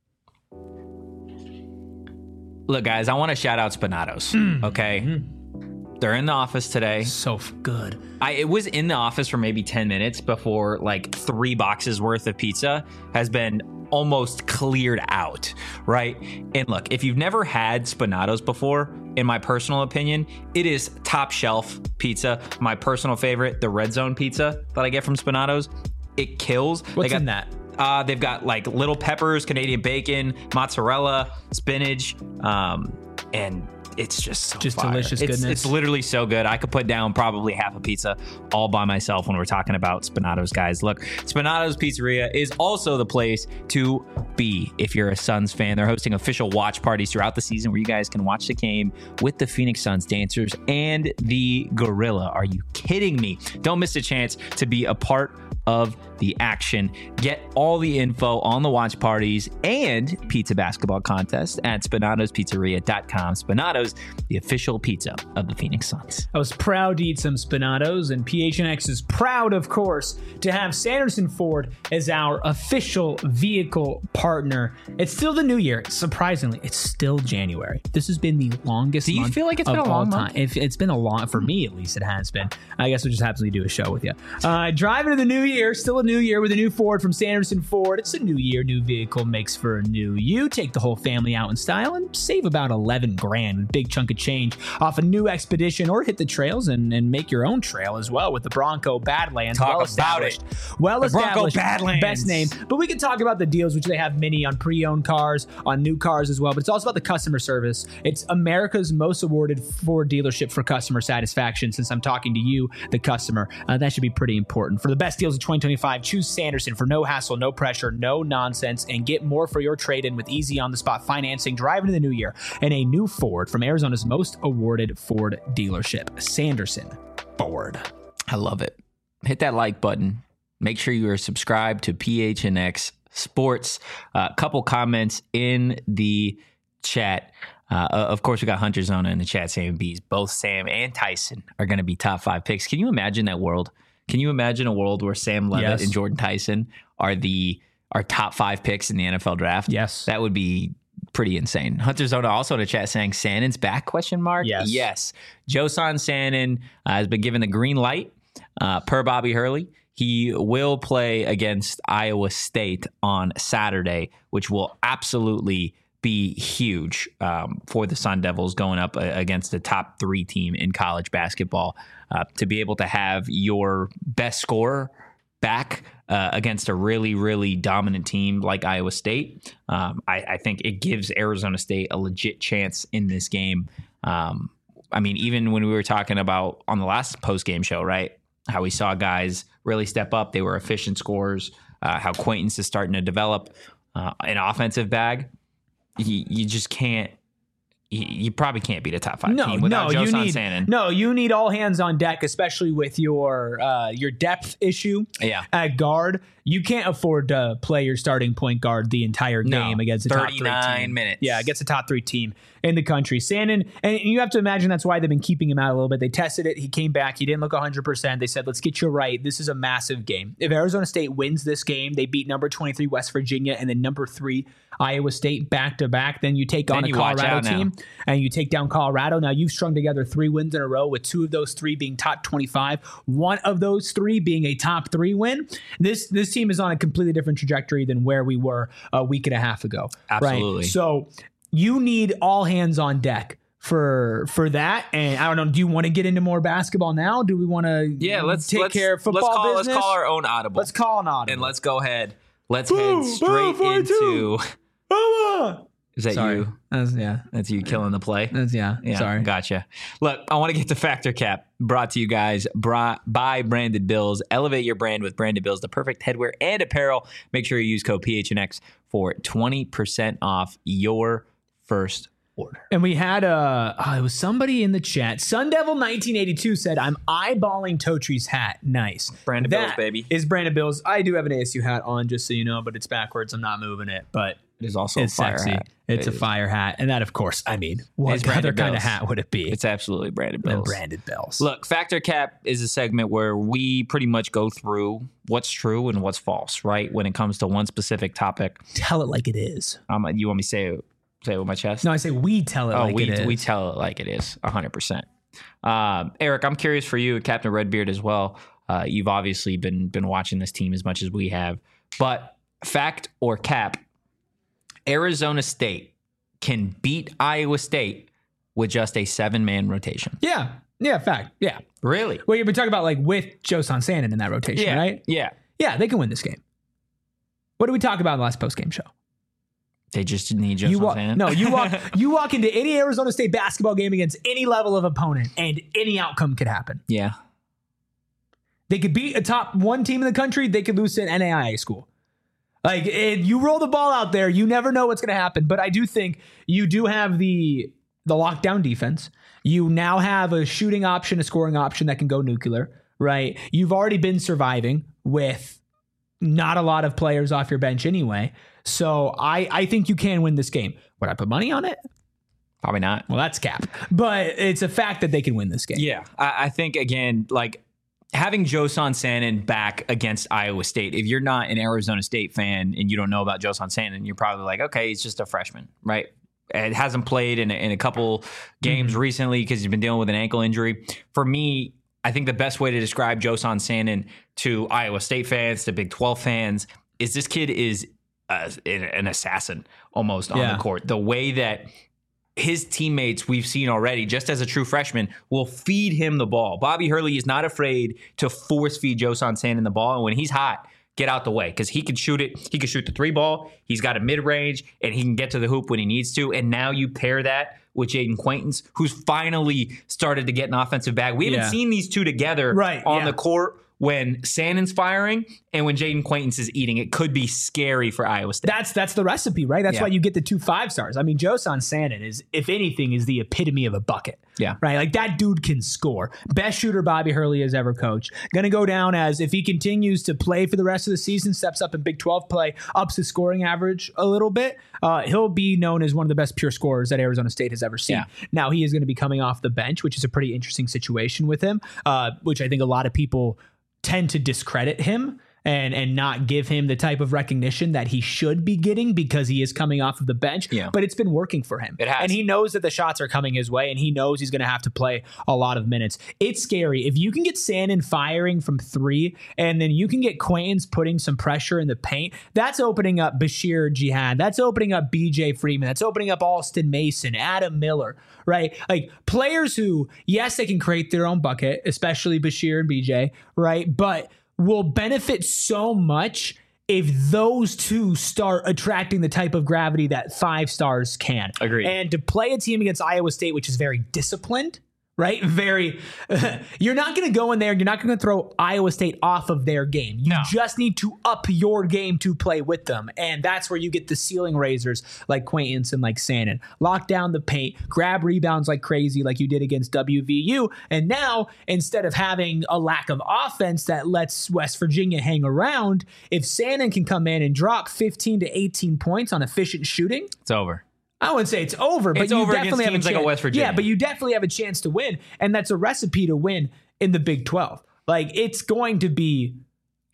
[SPEAKER 1] Look, guys, I want to shout out Spinatos,
[SPEAKER 2] Hmm.
[SPEAKER 1] okay? They're in the office today.
[SPEAKER 2] So f- good.
[SPEAKER 1] I it was in the office for maybe ten minutes before like three boxes worth of pizza has been almost cleared out, right? And look, if you've never had Spinatos before, in my personal opinion, it is top shelf pizza. My personal favorite, the Red Zone pizza that I get from Spinatos, it kills.
[SPEAKER 2] What's
[SPEAKER 1] They got,
[SPEAKER 2] in that?
[SPEAKER 1] Uh, they've got like little peppers, Canadian bacon, mozzarella, spinach, um, and it's just so
[SPEAKER 2] Just
[SPEAKER 1] fire.
[SPEAKER 2] delicious
[SPEAKER 1] It's-
[SPEAKER 2] goodness.
[SPEAKER 1] It's literally so good. I could put down probably half a pizza all by myself when we're talking about Spinatos, guys. Look, Spinatos Pizzeria is also the place to be if you're a Suns fan. They're hosting official watch parties throughout the season where you guys can watch the game with the Phoenix Suns dancers and the Gorilla. Are you kidding me? Don't miss a chance to be a part of the action. Get all the info on the watch parties and pizza basketball contest at spinatos pizzeria dot com. Spinatos, the official pizza of the Phoenix Suns.
[SPEAKER 2] I was proud to eat some Spinatos, and P H N X is proud, of course, to have Sanderson Ford as our official vehicle partner. It's still the new year. Surprisingly, it's still January. This has been the longest
[SPEAKER 1] Do you
[SPEAKER 2] month
[SPEAKER 1] feel like it's
[SPEAKER 2] of
[SPEAKER 1] been a
[SPEAKER 2] all
[SPEAKER 1] long
[SPEAKER 2] time.
[SPEAKER 1] month?
[SPEAKER 2] If it's been a long, for me at least, it has been. I guess we'll just happily do a show with you. Uh, driving to the new year, still a new year with a new Ford from Sanderson Ford. It's a new year, new vehicle makes for a new you. Take the whole family out in style and save about eleven grand, a big chunk of change off a new Expedition, or hit the trails and, and make your own trail as well with the Bronco Badlands.
[SPEAKER 1] Talk
[SPEAKER 2] well
[SPEAKER 1] about
[SPEAKER 2] established.
[SPEAKER 1] it.
[SPEAKER 2] Well
[SPEAKER 1] The Bronco
[SPEAKER 2] established.
[SPEAKER 1] Badlands.
[SPEAKER 2] Best name. But we can talk about the deals, which they have many on pre-owned cars, on new cars as well. But it's also about the customer service. It's America's most awarded Ford dealership for customer satisfaction. Since I'm talking to you, the customer, uh, that should be pretty important. For the best deals of twenty twenty-five, choose Sanderson for no hassle, no pressure, no nonsense, and get more for your trade-in with easy on-the-spot financing. Drive into the new year in a new Ford from Arizona's most awarded Ford dealership, Sanderson Ford.
[SPEAKER 1] I love it. Hit that like button. Make sure you are subscribed to P H N X Sports. A uh, couple comments in the chat. Uh, of course, we got Hunter Zona in the chat saying B's. Both Sam and Tyson are going to be top five picks. Can you imagine that world? Can you imagine a world where Sam Levitt
[SPEAKER 2] Yes.
[SPEAKER 1] and Jordan Tyson are the are top five picks in the N F L draft?
[SPEAKER 2] Yes.
[SPEAKER 1] That would be pretty insane. Hunter Zona also in the chat saying Sannon's back, question mark?
[SPEAKER 2] Yes.
[SPEAKER 1] Yes. Josan Sannon uh, has been given the green light uh, per Bobby Hurley. He will play against Iowa State on Saturday, which will absolutely be huge um, for the Sun Devils going up uh, against the top three team in college basketball. Uh, to be able to have your best scorer back uh, against a really, really dominant team like Iowa State, um, I, I think it gives Arizona State a legit chance in this game. Um, I mean, even when we were talking about on the last post-game show, right, how we saw guys really step up. They were efficient scorers, uh, how Quaintance is starting to develop uh, an offensive bag. You, you just can't. You, you probably can't beat a top five
[SPEAKER 2] No,
[SPEAKER 1] team without
[SPEAKER 2] no, you
[SPEAKER 1] Josan
[SPEAKER 2] need
[SPEAKER 1] Sannon.
[SPEAKER 2] no, you need all hands on deck, especially with your uh, your depth issue
[SPEAKER 1] Yeah.
[SPEAKER 2] at guard. You can't afford to play your starting point guard the entire
[SPEAKER 1] No,
[SPEAKER 2] game against a top three
[SPEAKER 1] thirty-nine
[SPEAKER 2] team.
[SPEAKER 1] minutes.
[SPEAKER 2] Yeah, against a top three team in the country. Sannon, and you have to imagine that's why they've been keeping him out a little bit. They tested it. He came back. He didn't look one hundred percent. They said, let's get you right. This is a massive game. If Arizona State wins this game, they beat number twenty-three West Virginia and then number three Iowa State back to back. Then you take
[SPEAKER 1] Then
[SPEAKER 2] on a
[SPEAKER 1] you watch
[SPEAKER 2] Colorado
[SPEAKER 1] out now.
[SPEAKER 2] team and you take down Colorado. Now you've strung together three wins in a row, with two of those three being top twenty-five, one of those three being a top three win. This this team is on a completely different trajectory than where we were a week and a half ago.
[SPEAKER 1] Absolutely.
[SPEAKER 2] Right? So you need all hands on deck for for that. And I don't know, do you want to get into more basketball now? Do we want to
[SPEAKER 1] Yeah, let's
[SPEAKER 2] take
[SPEAKER 1] let's,
[SPEAKER 2] care of football
[SPEAKER 1] let's call,
[SPEAKER 2] business?
[SPEAKER 1] Let's call our own audible.
[SPEAKER 2] Let's call an audible.
[SPEAKER 1] and let's go ahead. Let's
[SPEAKER 2] Boom,
[SPEAKER 1] head straight
[SPEAKER 2] boom,
[SPEAKER 1] into.
[SPEAKER 2] Mama!
[SPEAKER 1] Is that
[SPEAKER 2] Sorry.
[SPEAKER 1] you?
[SPEAKER 2] That's, yeah.
[SPEAKER 1] That's you killing the play.
[SPEAKER 2] That's, yeah.
[SPEAKER 1] Yeah,
[SPEAKER 2] Sorry.
[SPEAKER 1] Gotcha. Look, I want to get to Factor Cap, brought to you guys bra- by Branded Bills. Elevate your brand with Branded Bills, the perfect headwear and apparel. Make sure you use code P H N X for twenty percent off your first order.
[SPEAKER 2] And we had a, oh, it was somebody in the chat. Sun Devil nineteen eighty-two said, I'm eyeballing Totri's hat. Nice.
[SPEAKER 1] Branded
[SPEAKER 2] That
[SPEAKER 1] Bills, baby.
[SPEAKER 2] Is Branded Bills. I do have an A S U hat on, just so you know, but it's backwards. I'm not moving it, but
[SPEAKER 1] It is also
[SPEAKER 2] it's
[SPEAKER 1] a fire
[SPEAKER 2] sexy.
[SPEAKER 1] hat.
[SPEAKER 2] It's
[SPEAKER 1] It
[SPEAKER 2] a
[SPEAKER 1] is.
[SPEAKER 2] fire hat. And that, of course, I mean, what
[SPEAKER 1] It's
[SPEAKER 2] other
[SPEAKER 1] Branded
[SPEAKER 2] kind of
[SPEAKER 1] Bills.
[SPEAKER 2] hat would it be
[SPEAKER 1] It's absolutely Branded
[SPEAKER 2] than
[SPEAKER 1] Bills.
[SPEAKER 2] Branded Bills?
[SPEAKER 1] Look, Factor Cap is a segment where we pretty much go through what's true and what's false, right? When it comes to one specific topic.
[SPEAKER 2] Tell it like it is.
[SPEAKER 1] Um, you want me to say it, say it with my chest?
[SPEAKER 2] No, I say we tell it
[SPEAKER 1] Oh,
[SPEAKER 2] like
[SPEAKER 1] we
[SPEAKER 2] it is.
[SPEAKER 1] we tell it like it is, one hundred percent. Um, Eric, I'm curious for you, Captain Redbeard as well. Uh, you've obviously been been watching this team as much as we have. But fact or cap, Arizona State can beat Iowa State with just a seven-man rotation.
[SPEAKER 2] Yeah. Yeah, fact. Yeah.
[SPEAKER 1] Really?
[SPEAKER 2] Well, you've been talking about like with Joe Sansanin in that rotation,
[SPEAKER 1] Yeah.
[SPEAKER 2] right?
[SPEAKER 1] Yeah.
[SPEAKER 2] Yeah, they can win this game. What did we talk about in the last post-game show?
[SPEAKER 1] They just need
[SPEAKER 2] You
[SPEAKER 1] Joseph
[SPEAKER 2] walk,
[SPEAKER 1] Sand.
[SPEAKER 2] no, you walk you walk into any Arizona State basketball game against any level of opponent, and any outcome could happen.
[SPEAKER 1] Yeah.
[SPEAKER 2] They could beat a top one team in the country. They could lose to an N A I A school. Like, it, you roll the ball out there, you never know what's going to happen. But I do think you do have the the lockdown defense. You now have a shooting option, a scoring option that can go nuclear, right? You've already been surviving with not a lot of players off your bench anyway. So I, I think you can win this game. Would I put money on it?
[SPEAKER 1] Probably not.
[SPEAKER 2] Well, that's cap. But it's a fact that they can win this game.
[SPEAKER 1] Yeah. I, I think, again, like, having Josan Sannon back against Iowa State, if you're not an Arizona State fan and you don't know about Josan Sannon, you're probably like, okay, he's just a freshman, right? It hasn't played in a, in a couple games
[SPEAKER 2] Mm-hmm.
[SPEAKER 1] recently because he's been dealing with an ankle injury. For me, I think the best way to describe Josan Sannon to Iowa State fans, to Big twelve fans, is this kid is uh, an assassin almost on
[SPEAKER 2] Yeah.
[SPEAKER 1] the court. The way that his teammates we've seen already, just as a true freshman, will feed him the ball. Bobby Hurley is not afraid to force feed Josan Sannon the ball. And when he's hot, get out the way, because he can shoot it. He can shoot the three ball. He's got a mid-range, and he can get to the hoop when he needs to. And now you pair that with Jaden Quaintance, who's finally started to get an offensive bag. We haven't
[SPEAKER 2] Yeah.
[SPEAKER 1] seen these two together
[SPEAKER 2] Right,
[SPEAKER 1] on
[SPEAKER 2] yeah.
[SPEAKER 1] the court when Sannon's firing and when Jaden Quaintance is eating. It could be scary for Iowa State.
[SPEAKER 2] That's that's the recipe, right? That's
[SPEAKER 1] Yeah.
[SPEAKER 2] why you get the two five stars. I mean, Josan Sannon is, if anything, is the epitome of a bucket.
[SPEAKER 1] Yeah.
[SPEAKER 2] Right? Like, that dude can score. Best shooter Bobby Hurley has ever coached. Going to go down as, if he continues to play for the rest of the season, steps up in Big twelve play, ups his scoring average a little bit, uh, he'll be known as one of the best pure scorers that Arizona State has ever seen.
[SPEAKER 1] Yeah.
[SPEAKER 2] Now, he is going to be coming off the bench, which is a pretty interesting situation with him, uh, which I think a lot of people tend to discredit him and and not give him the type of recognition that he should be getting because he is coming off of the bench.
[SPEAKER 1] Yeah.
[SPEAKER 2] But it's been working for him.
[SPEAKER 1] It has.
[SPEAKER 2] And he knows that the shots are coming his way, and he knows he's going to have to play a lot of minutes. It's scary. If you can get Sannon firing from three, and then you can get Quaintance putting some pressure in the paint, that's opening up Bashir Jihad. That's opening up B J Freeman. That's opening up Alston Mason, Adam Miller, right? Like, players who, yes, they can create their own bucket, especially Bashir and B J, right? But will benefit so much if those two start attracting the type of gravity that five stars can.
[SPEAKER 1] Agreed.
[SPEAKER 2] And to play a team against Iowa State, which is very disciplined, right? Very, you're not going to go in there and you're not going to throw Iowa State off of their game. You
[SPEAKER 1] No.
[SPEAKER 2] just need to up your game to play with them. And that's where you get the ceiling raisers like Quaintance and like Sannon. Lock down the paint, grab rebounds like crazy like you did against W V U. And now, instead of having a lack of offense that lets West Virginia hang around, if Sannon can come in and drop fifteen to eighteen points on efficient shooting,
[SPEAKER 1] It's over.
[SPEAKER 2] I wouldn't say it's over, but
[SPEAKER 1] It's
[SPEAKER 2] you
[SPEAKER 1] over against
[SPEAKER 2] definitely have a
[SPEAKER 1] teams
[SPEAKER 2] chance.
[SPEAKER 1] like a West Virginia.
[SPEAKER 2] Yeah, but you definitely have a chance to win, and that's a recipe to win in the Big twelve. Like, it's going to be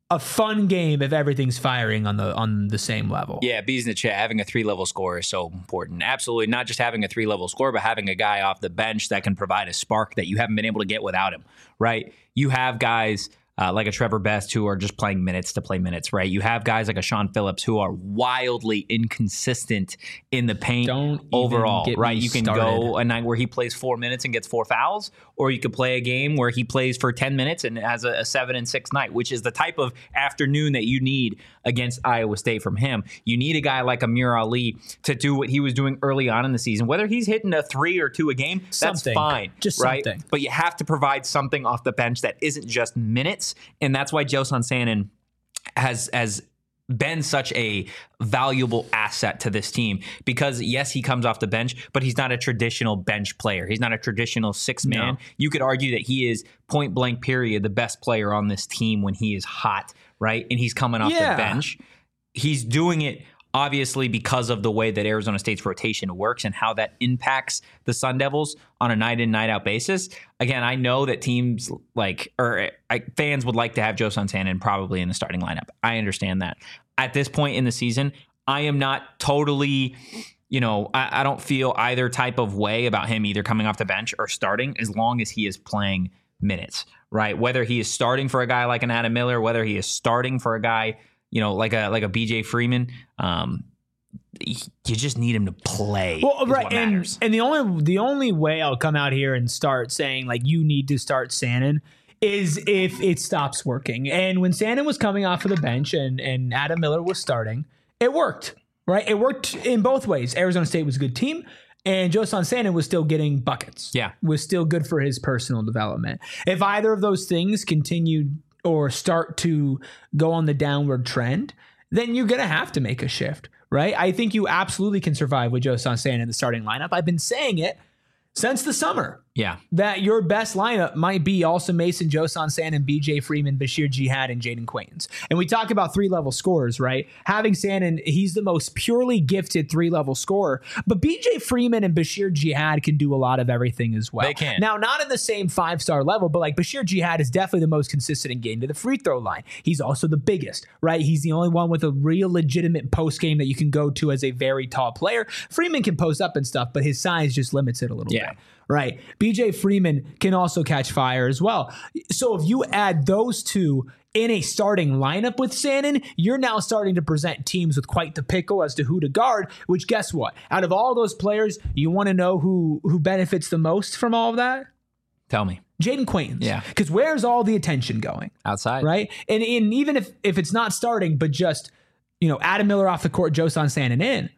[SPEAKER 2] a fun game if everything's firing on the on the same level.
[SPEAKER 1] Yeah, B's in the chat. Having a three-level score is so important. Absolutely, not just having a three-level score, but having a guy off the bench that can provide a spark that you haven't been able to get without him, right? You have guys uh, like a Trevor Best who are just playing minutes to play minutes, right? You have guys like a Sean Phillips who are wildly inconsistent in the paint
[SPEAKER 2] Don't even
[SPEAKER 1] overall,
[SPEAKER 2] get
[SPEAKER 1] right?
[SPEAKER 2] me
[SPEAKER 1] You can
[SPEAKER 2] started.
[SPEAKER 1] go a night where he plays four minutes and gets four fouls, or you could play a game where he plays for ten minutes and has a, a seven and six night, which is the type of afternoon that you need against Iowa State from him. You need a guy like Amir Ali to do what he was doing early on in the season. Whether he's hitting a three or two a game, that's
[SPEAKER 2] Something.
[SPEAKER 1] fine.
[SPEAKER 2] Just
[SPEAKER 1] right?
[SPEAKER 2] something.
[SPEAKER 1] But you have to provide something off the bench that isn't just minutes. And that's why Josan Sannon has has been such a valuable asset to this team, because yes, he comes off the bench, but he's not a traditional bench player. He's not a traditional six man.
[SPEAKER 2] No.
[SPEAKER 1] You could argue that he is point blank period the best player on this team when he is hot, right? And he's coming off
[SPEAKER 2] Yeah.
[SPEAKER 1] the bench. He's doing it obviously because of the way that Arizona State's rotation works and how that impacts the Sun Devils on a night in, night out basis. Again, I know that teams like, or I, fans would like to have Josan Sannon probably in the starting lineup. I understand that. At this point in the season, I am not totally, you know, I, I don't feel either type of way about him either coming off the bench or starting, as long as he is playing minutes, right? Whether he is starting for a guy like an Adam Miller, whether he is starting for a guy, you know, like a like a B J Freeman, um, you just need him to play.
[SPEAKER 2] Well,
[SPEAKER 1] is
[SPEAKER 2] right,
[SPEAKER 1] what
[SPEAKER 2] and
[SPEAKER 1] matters.
[SPEAKER 2] and the only the only way I'll come out here and start saying like you need to start Sannon is if it stops working. And when Sannon was coming off of the bench and and Adam Miller was starting, it worked, right? It worked in both ways. Arizona State was a good team, and Josan Sannon was still getting buckets.
[SPEAKER 1] Yeah.
[SPEAKER 2] Was still good for his personal development. If either of those things continued or start to go on the downward trend, then you're going to have to make a shift, right? I think you absolutely can survive with Josan Sannon in the starting lineup. I've been saying it since the summer.
[SPEAKER 1] Yeah.
[SPEAKER 2] That your best lineup might be Alston Mason, Josan Sannon, B J Freeman, Bashir Jihad, and Jaden Quaintance. And we talk about three-level scorers, right? Having Sannon, he's the most purely gifted three-level scorer. But B J Freeman and Bashir Jihad can do a lot of everything as well.
[SPEAKER 1] They can.
[SPEAKER 2] Now, not in the same five-star level, but like Bashir Jihad is definitely the most consistent in getting to the free throw line. He's also the biggest, right? He's the only one with a real legitimate post game that you can go to as a very tall player. Freeman can post up and stuff, but his size just limits it a little
[SPEAKER 1] Yeah.
[SPEAKER 2] bit. Right. B J Freeman can also catch fire as well. So if you add those two in a starting lineup with Sannon, you're now starting to present teams with quite the pickle as to who to guard, which guess what? Out of all those players, you want to know who who benefits the most from all of that?
[SPEAKER 1] Tell me.
[SPEAKER 2] Jaden Quaintance.
[SPEAKER 1] Yeah.
[SPEAKER 2] Because where's all the attention going?
[SPEAKER 1] Outside.
[SPEAKER 2] Right? And, and even if, if it's not starting, but just, you know, Adam Miller off the court, Josan Sannon in,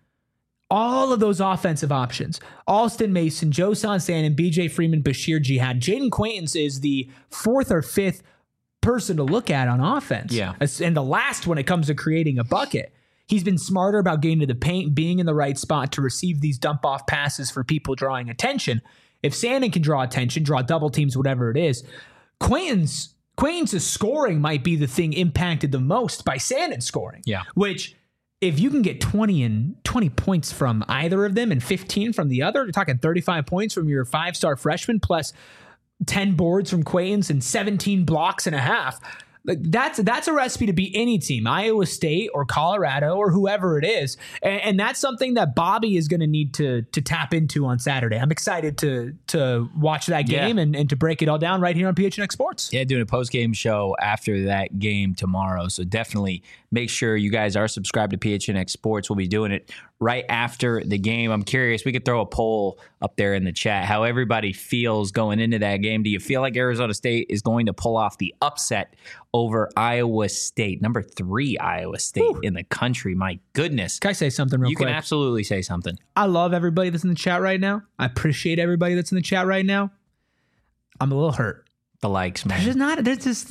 [SPEAKER 2] all of those offensive options, Alston Mason, Josan Sannon, B J Freeman, Bashir Jihad, Jaden Quaintance is the fourth or fifth person to look at on offense.
[SPEAKER 1] Yeah.
[SPEAKER 2] As- And the last when it comes to creating a bucket. He's been smarter about getting to the paint, being in the right spot to receive these dump off passes for people drawing attention. If Sannon can draw attention, draw double teams, whatever it is, Quaintance, Quaintance's scoring might be the thing impacted the most by Sannon scoring.
[SPEAKER 1] Yeah.
[SPEAKER 2] Which, if you can get twenty and twenty points from either of them and fifteen from the other, you're talking thirty-five points from your five-star freshman plus ten boards from Quaintance and seventeen blocks and a half. Like that's that's a recipe to beat any team, Iowa State or Colorado or whoever it is, and, and that's something that Bobby is going to need to to tap into on Saturday. I'm excited to to watch that game
[SPEAKER 1] Yeah.
[SPEAKER 2] and, and to break it all down right here on P H N X Sports.
[SPEAKER 1] Yeah, doing a post game show after that game tomorrow. So definitely make sure you guys are subscribed to P H N X Sports. We'll be doing it right after the game. I'm curious, we could throw a poll up there in the chat how everybody feels going into that game. Do you feel like Arizona State is going to pull off the upset over Iowa State? Number three Iowa State
[SPEAKER 2] Whew.
[SPEAKER 1] in the country. My goodness.
[SPEAKER 2] Can I say something real
[SPEAKER 1] You
[SPEAKER 2] quick?
[SPEAKER 1] can absolutely say something.
[SPEAKER 2] I love everybody that's in the chat right now. I appreciate everybody that's in the chat right now. I'm a little hurt.
[SPEAKER 1] The likes,
[SPEAKER 2] There's just
[SPEAKER 1] man.
[SPEAKER 2] not. There's just.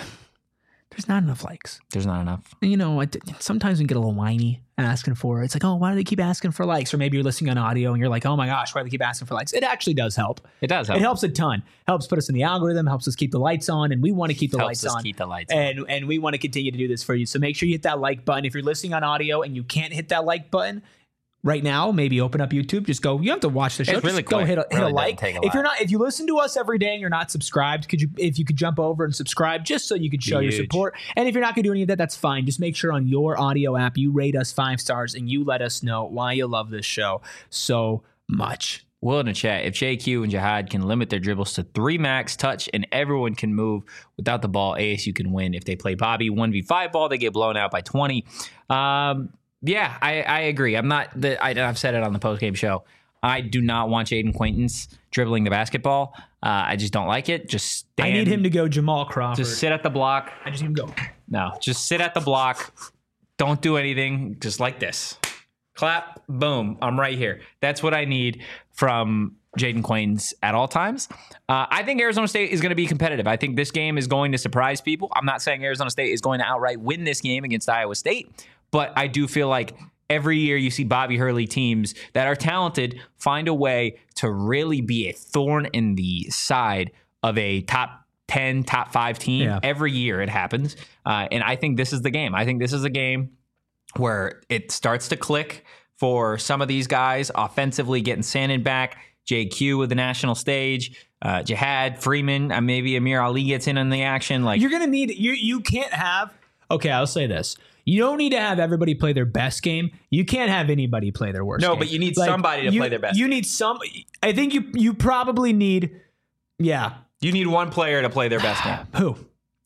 [SPEAKER 2] There's not enough likes.
[SPEAKER 1] There's not enough.
[SPEAKER 2] And, you know, I, sometimes we get a little whiny asking for it. It's like, oh, why do they keep asking for likes? Or maybe you're listening on audio and you're like, oh my gosh, why do they keep asking for likes? It actually does help.
[SPEAKER 1] It does help.
[SPEAKER 2] It helps a ton. Helps put us in the algorithm. Helps us keep the lights on, and we want to keep the
[SPEAKER 1] Helps
[SPEAKER 2] lights
[SPEAKER 1] us
[SPEAKER 2] on.
[SPEAKER 1] keep the lights on.
[SPEAKER 2] and and we want to continue to do this for you. So make sure you hit that like button. If you're listening on audio and you can't hit that like button, right now, maybe open up YouTube. Just go. You have to watch the show.
[SPEAKER 1] It's really
[SPEAKER 2] just go
[SPEAKER 1] quick.
[SPEAKER 2] hit a, hit
[SPEAKER 1] Really
[SPEAKER 2] a like.
[SPEAKER 1] doesn't take a
[SPEAKER 2] If you're
[SPEAKER 1] lot.
[SPEAKER 2] not, if you listen to us every day and you're not subscribed, could you? If you could jump over and subscribe, just so you could show your
[SPEAKER 1] Huge.
[SPEAKER 2] support. And if you're not going to do any of that, that's fine. Just make sure on your audio app you rate us five stars and you let us know why you love this show so much.
[SPEAKER 1] Will in the chat, if J Q and Jihad can limit their dribbles to three max touch and everyone can move without the ball, A S U can win. If they play Bobby one v five ball, they get blown out by twenty. Um, yeah, I, I agree. I'm not, the, I, I've said it on the postgame show. I do not want Jaden Quaintance dribbling the basketball. Uh, I just don't like it. Just stand,
[SPEAKER 2] I need him to go Jamal Crawford.
[SPEAKER 1] just sit at the block.
[SPEAKER 2] I just need him to go.
[SPEAKER 1] No, just sit at the block. Don't do anything. Just like this. Clap, boom, I'm right here. That's what I need from Jaden Quaintance at all times. Uh, I think Arizona State is going to be competitive. I think this game is going to surprise people. I'm not saying Arizona State is going to outright win this game against Iowa State, but I do feel like every year you see Bobby Hurley teams that are talented find a way to really be a thorn in the side of a top ten, top five team.
[SPEAKER 2] Yeah.
[SPEAKER 1] Every year it happens. Uh, and I think this is the game. I think this is a game where it starts to click for some of these guys offensively, getting Sandin back, J Q with the national stage, uh, Jihad, Freeman, uh, maybe Amir Ali gets in on the action. Like
[SPEAKER 2] You're gonna need you. You can't have. Okay, I'll say this. You don't need to have everybody play their best game. You can't have anybody play their worst
[SPEAKER 1] No,
[SPEAKER 2] game.
[SPEAKER 1] but you need
[SPEAKER 2] Like,
[SPEAKER 1] somebody to
[SPEAKER 2] you-
[SPEAKER 1] play their best
[SPEAKER 2] You
[SPEAKER 1] game.
[SPEAKER 2] need some. I think you you probably need. Yeah.
[SPEAKER 1] you need one player to play their best game.
[SPEAKER 2] Who?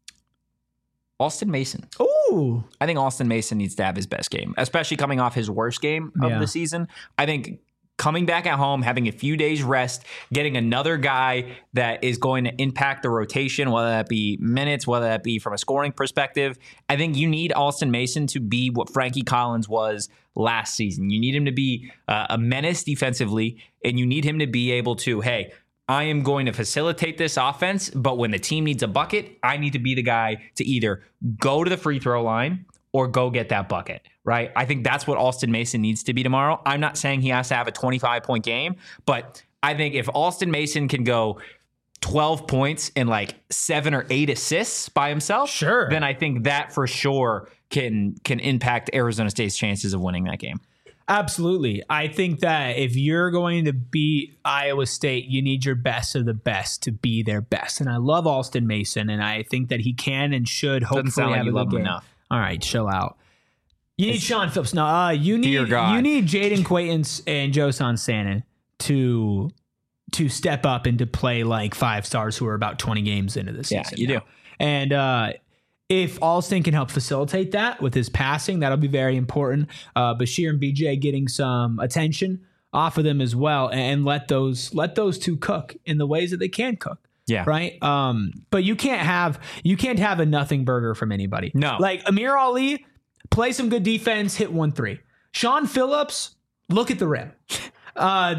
[SPEAKER 1] Austin Mason.
[SPEAKER 2] Ooh.
[SPEAKER 1] I think Austin Mason needs to have his best game, especially coming off his worst game of
[SPEAKER 2] Yeah.
[SPEAKER 1] the season. I think coming back at home, having a few days rest, getting another guy that is going to impact the rotation, whether that be minutes, whether that be from a scoring perspective. I think you need Austin Mason to be what Frankie Collins was last season. You need him to be uh, a menace defensively, and you need him to be able to, hey, I am going to facilitate this offense, but when the team needs a bucket, I need to be the guy to either go to the free throw line or go get that bucket, right? I think that's what Austin Mason needs to be tomorrow. I'm not saying he has to have a twenty-five point game, but I think if Austin Mason can go twelve points and like seven or eight assists by himself,
[SPEAKER 2] Sure.
[SPEAKER 1] then I think that for sure can can impact Arizona State's chances of winning that game.
[SPEAKER 2] Absolutely. I think that if you're going to beat Iowa State, you need your best of the best to be their best. And I love Austin Mason, and I think that he can and should hopefully
[SPEAKER 1] sound like
[SPEAKER 2] have
[SPEAKER 1] you
[SPEAKER 2] a
[SPEAKER 1] love
[SPEAKER 2] good
[SPEAKER 1] him
[SPEAKER 2] game.
[SPEAKER 1] enough.
[SPEAKER 2] All right, chill out. You need Sean Phillips. No, uh, you
[SPEAKER 1] Dear
[SPEAKER 2] need
[SPEAKER 1] God.
[SPEAKER 2] you need Jaden Quaintance and Josan Sannon to to step up and to play like five stars who are about twenty games into the season.
[SPEAKER 1] Yeah, you
[SPEAKER 2] now.
[SPEAKER 1] do.
[SPEAKER 2] And uh, if Alston can help facilitate that with his passing, that'll be very important. Uh, Bashir and B J getting some attention off of them as well, and let those let those two cook in the ways that they can cook.
[SPEAKER 1] Yeah.
[SPEAKER 2] Right. Um, but you can't have you can't have a nothing burger from anybody.
[SPEAKER 1] No.
[SPEAKER 2] Like Amir Ali, play some good defense, hit one three. Sean Phillips, look at the rim. Uh,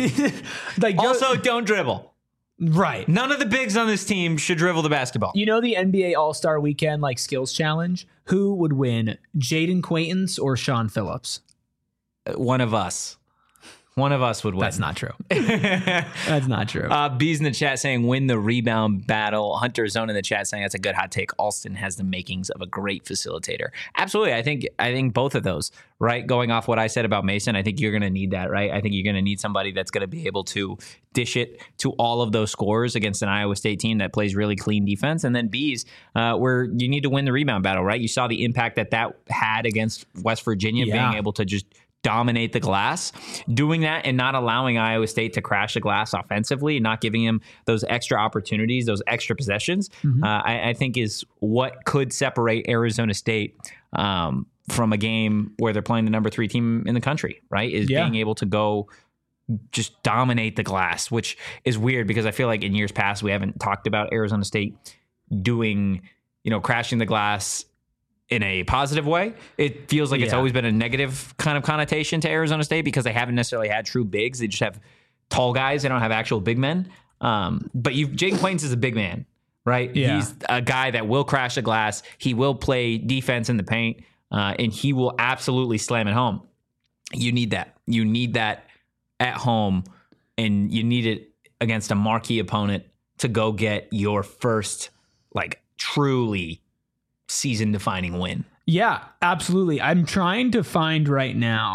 [SPEAKER 2] like
[SPEAKER 1] Also, don't dribble.
[SPEAKER 2] right.
[SPEAKER 1] None of the bigs on this team should dribble the basketball.
[SPEAKER 2] You know the N B A All-Star Weekend like skills challenge? Who would win, Jaden Quaintance or Sean Phillips?
[SPEAKER 1] One of us. One of us would win.
[SPEAKER 2] That's not true. That's not true.
[SPEAKER 1] Uh, B's in the chat saying win the rebound battle. Hunter Zone in the chat saying that's a good hot take. Alston has the makings of a great facilitator. Absolutely. I think I think both of those, right? Going off what I said about Mason, I think you're going to need that, right? I think you're going to need somebody that's going to be able to dish it to all of those scores against an Iowa State team that plays really clean defense. And then B's, uh, where you need to win the rebound battle, right? You saw the impact that that had against West Virginia,
[SPEAKER 2] Yeah.
[SPEAKER 1] being able to just dominate the glass. Doing that and not allowing Iowa State to crash the glass offensively, not giving him those extra opportunities, those extra possessions,
[SPEAKER 2] Mm-hmm.
[SPEAKER 1] uh, I, I think is what could separate Arizona State um, from a game where they're playing the number three team in the country, right? Is
[SPEAKER 2] Yeah.
[SPEAKER 1] being able to go just dominate the glass, which is weird because I feel like in years past we haven't talked about Arizona State doing, you know, crashing the glass in a positive way. It feels like it's
[SPEAKER 2] Yeah.
[SPEAKER 1] always been a negative kind of connotation to Arizona State because they haven't necessarily had true bigs. They just have tall guys. They don't have actual big men. Um, but you, Jaden Quaintance is a big man, right?
[SPEAKER 2] Yeah.
[SPEAKER 1] He's a guy that will crash the glass. He will play defense in the paint, uh, and he will absolutely slam it home. You need that. You need that at home, and you need it against a marquee opponent to go get your first, like, truly season-defining win.
[SPEAKER 2] Yeah, absolutely. I'm trying to find right now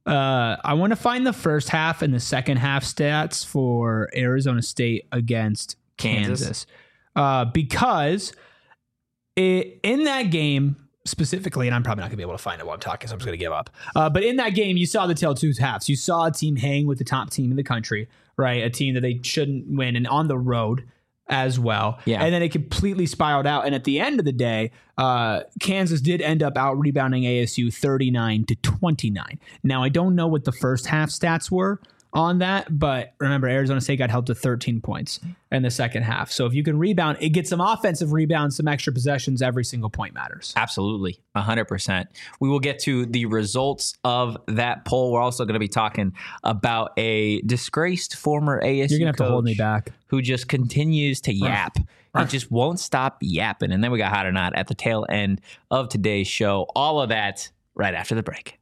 [SPEAKER 2] Uh, I want to find the first half and the second half stats for Arizona State against Kansas,
[SPEAKER 1] Kansas.
[SPEAKER 2] Uh, because it, in that game specifically, and I'm probably not gonna be able to find it while I'm talking, so I'm just gonna give up. Uh, but in that game, you saw the tale two halves. You saw a team hang with the top team in the country, right? A team that they shouldn't win, and on the road as well.
[SPEAKER 1] Yeah.
[SPEAKER 2] And then it completely spiraled out. And at the end of the day, uh, Kansas did end up out rebounding A S U thirty-nine to twenty-nine. Now, I don't know what the first half stats were on that, but remember, Arizona State got held to thirteen points in the second half. So if you can rebound, it gets some offensive rebounds, some extra possessions. Every single point matters.
[SPEAKER 1] Absolutely. one hundred percent. We will get to the results of that poll. We're also going to be talking about a disgraced former A S U
[SPEAKER 2] You're going to have
[SPEAKER 1] coach
[SPEAKER 2] to hold me back.
[SPEAKER 1] who just continues to yap. He just won't stop yapping. And then we got hot or not at the tail end of today's show. All of that right after the break.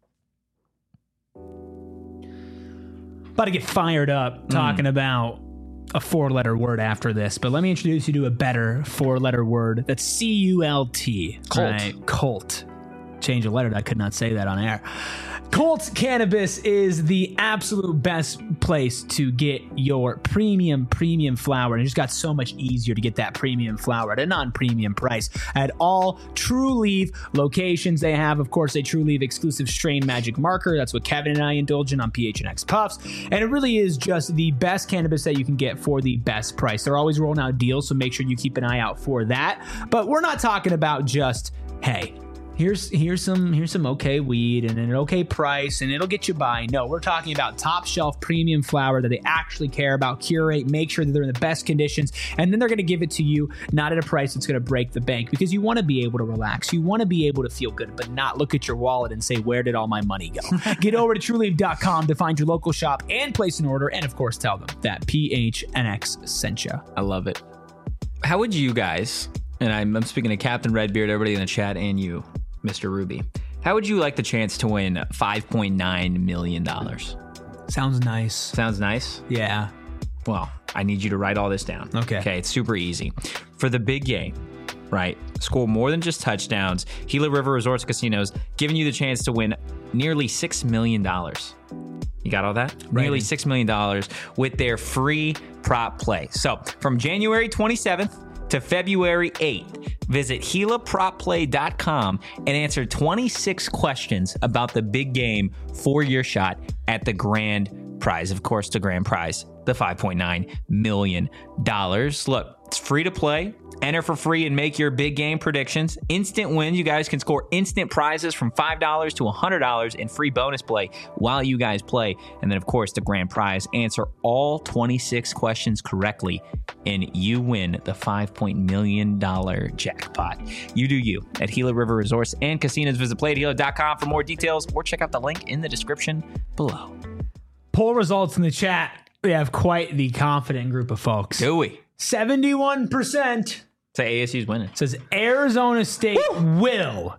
[SPEAKER 2] About to get fired up talking mm. about a four-letter word after this, but let me introduce you to a better four-letter word. That's C U L T.
[SPEAKER 1] Cult.
[SPEAKER 2] Right? Cult. Change a letter. I could not say that on air. Colt Cannabis is the absolute best place to get your premium, premium flower. And it just got so much easier to get that premium flower at a non-premium price at all True Leaf locations. They have, of course, a True Leaf exclusive strain magic marker. That's what Kevin and I indulge in on P H N X Puffs. And it really is just the best cannabis that you can get for the best price. They're always rolling out deals, so make sure you keep an eye out for that. But we're not talking about just, hey, Here's here's some here's some okay weed and an okay price and it'll get you by. No, we're talking about top shelf premium flower that they actually care about, curate, make sure that they're in the best conditions, and then they're going to give it to you not at a price that's going to break the bank, because you want to be able to relax, you want to be able to feel good, but not look at your wallet and say, where did all my money go? Get over to true leaf dot com to find your local shop and place an order, and of course tell them that P H N X sent you.
[SPEAKER 1] I love it. How would you guys, and I'm, I'm speaking to Captain Redbeard, everybody in the chat, and you, Mister Ruby, how would you like the chance to win five point nine million dollars?
[SPEAKER 2] Sounds nice.
[SPEAKER 1] Sounds nice?
[SPEAKER 2] Yeah.
[SPEAKER 1] Well, I need you to write all this down.
[SPEAKER 2] Okay.
[SPEAKER 1] Okay, it's super easy. For the big game, right, score more than just touchdowns, Gila River Resorts Casinos giving you the chance to win nearly six million dollars. You got all that?
[SPEAKER 2] Right.
[SPEAKER 1] Nearly six million dollars with their free prop play. So from January twenty-seventh to February eighth, visit Gila Prop Play dot com and answer twenty-six questions about the big game for your shot at the grand prize. Of course, the grand prize, the five point nine million dollars. Look, it's free to play. Enter for free and make your big game predictions. Instant wins. You guys can score instant prizes from five dollars to one hundred dollars in free bonus play while you guys play. And then, of course, the grand prize. Answer all twenty-six questions correctly, and you win the five point nine million dollars jackpot. You do you at Gila River Resorts and Casinos. Visit play at Gila dot com for more details or check out the link in the description below.
[SPEAKER 2] Poll results in the chat. We have quite the confident group of folks.
[SPEAKER 1] Do we?
[SPEAKER 2] seventy-one percent
[SPEAKER 1] say A S U's winning.
[SPEAKER 2] Says Arizona State Woo! will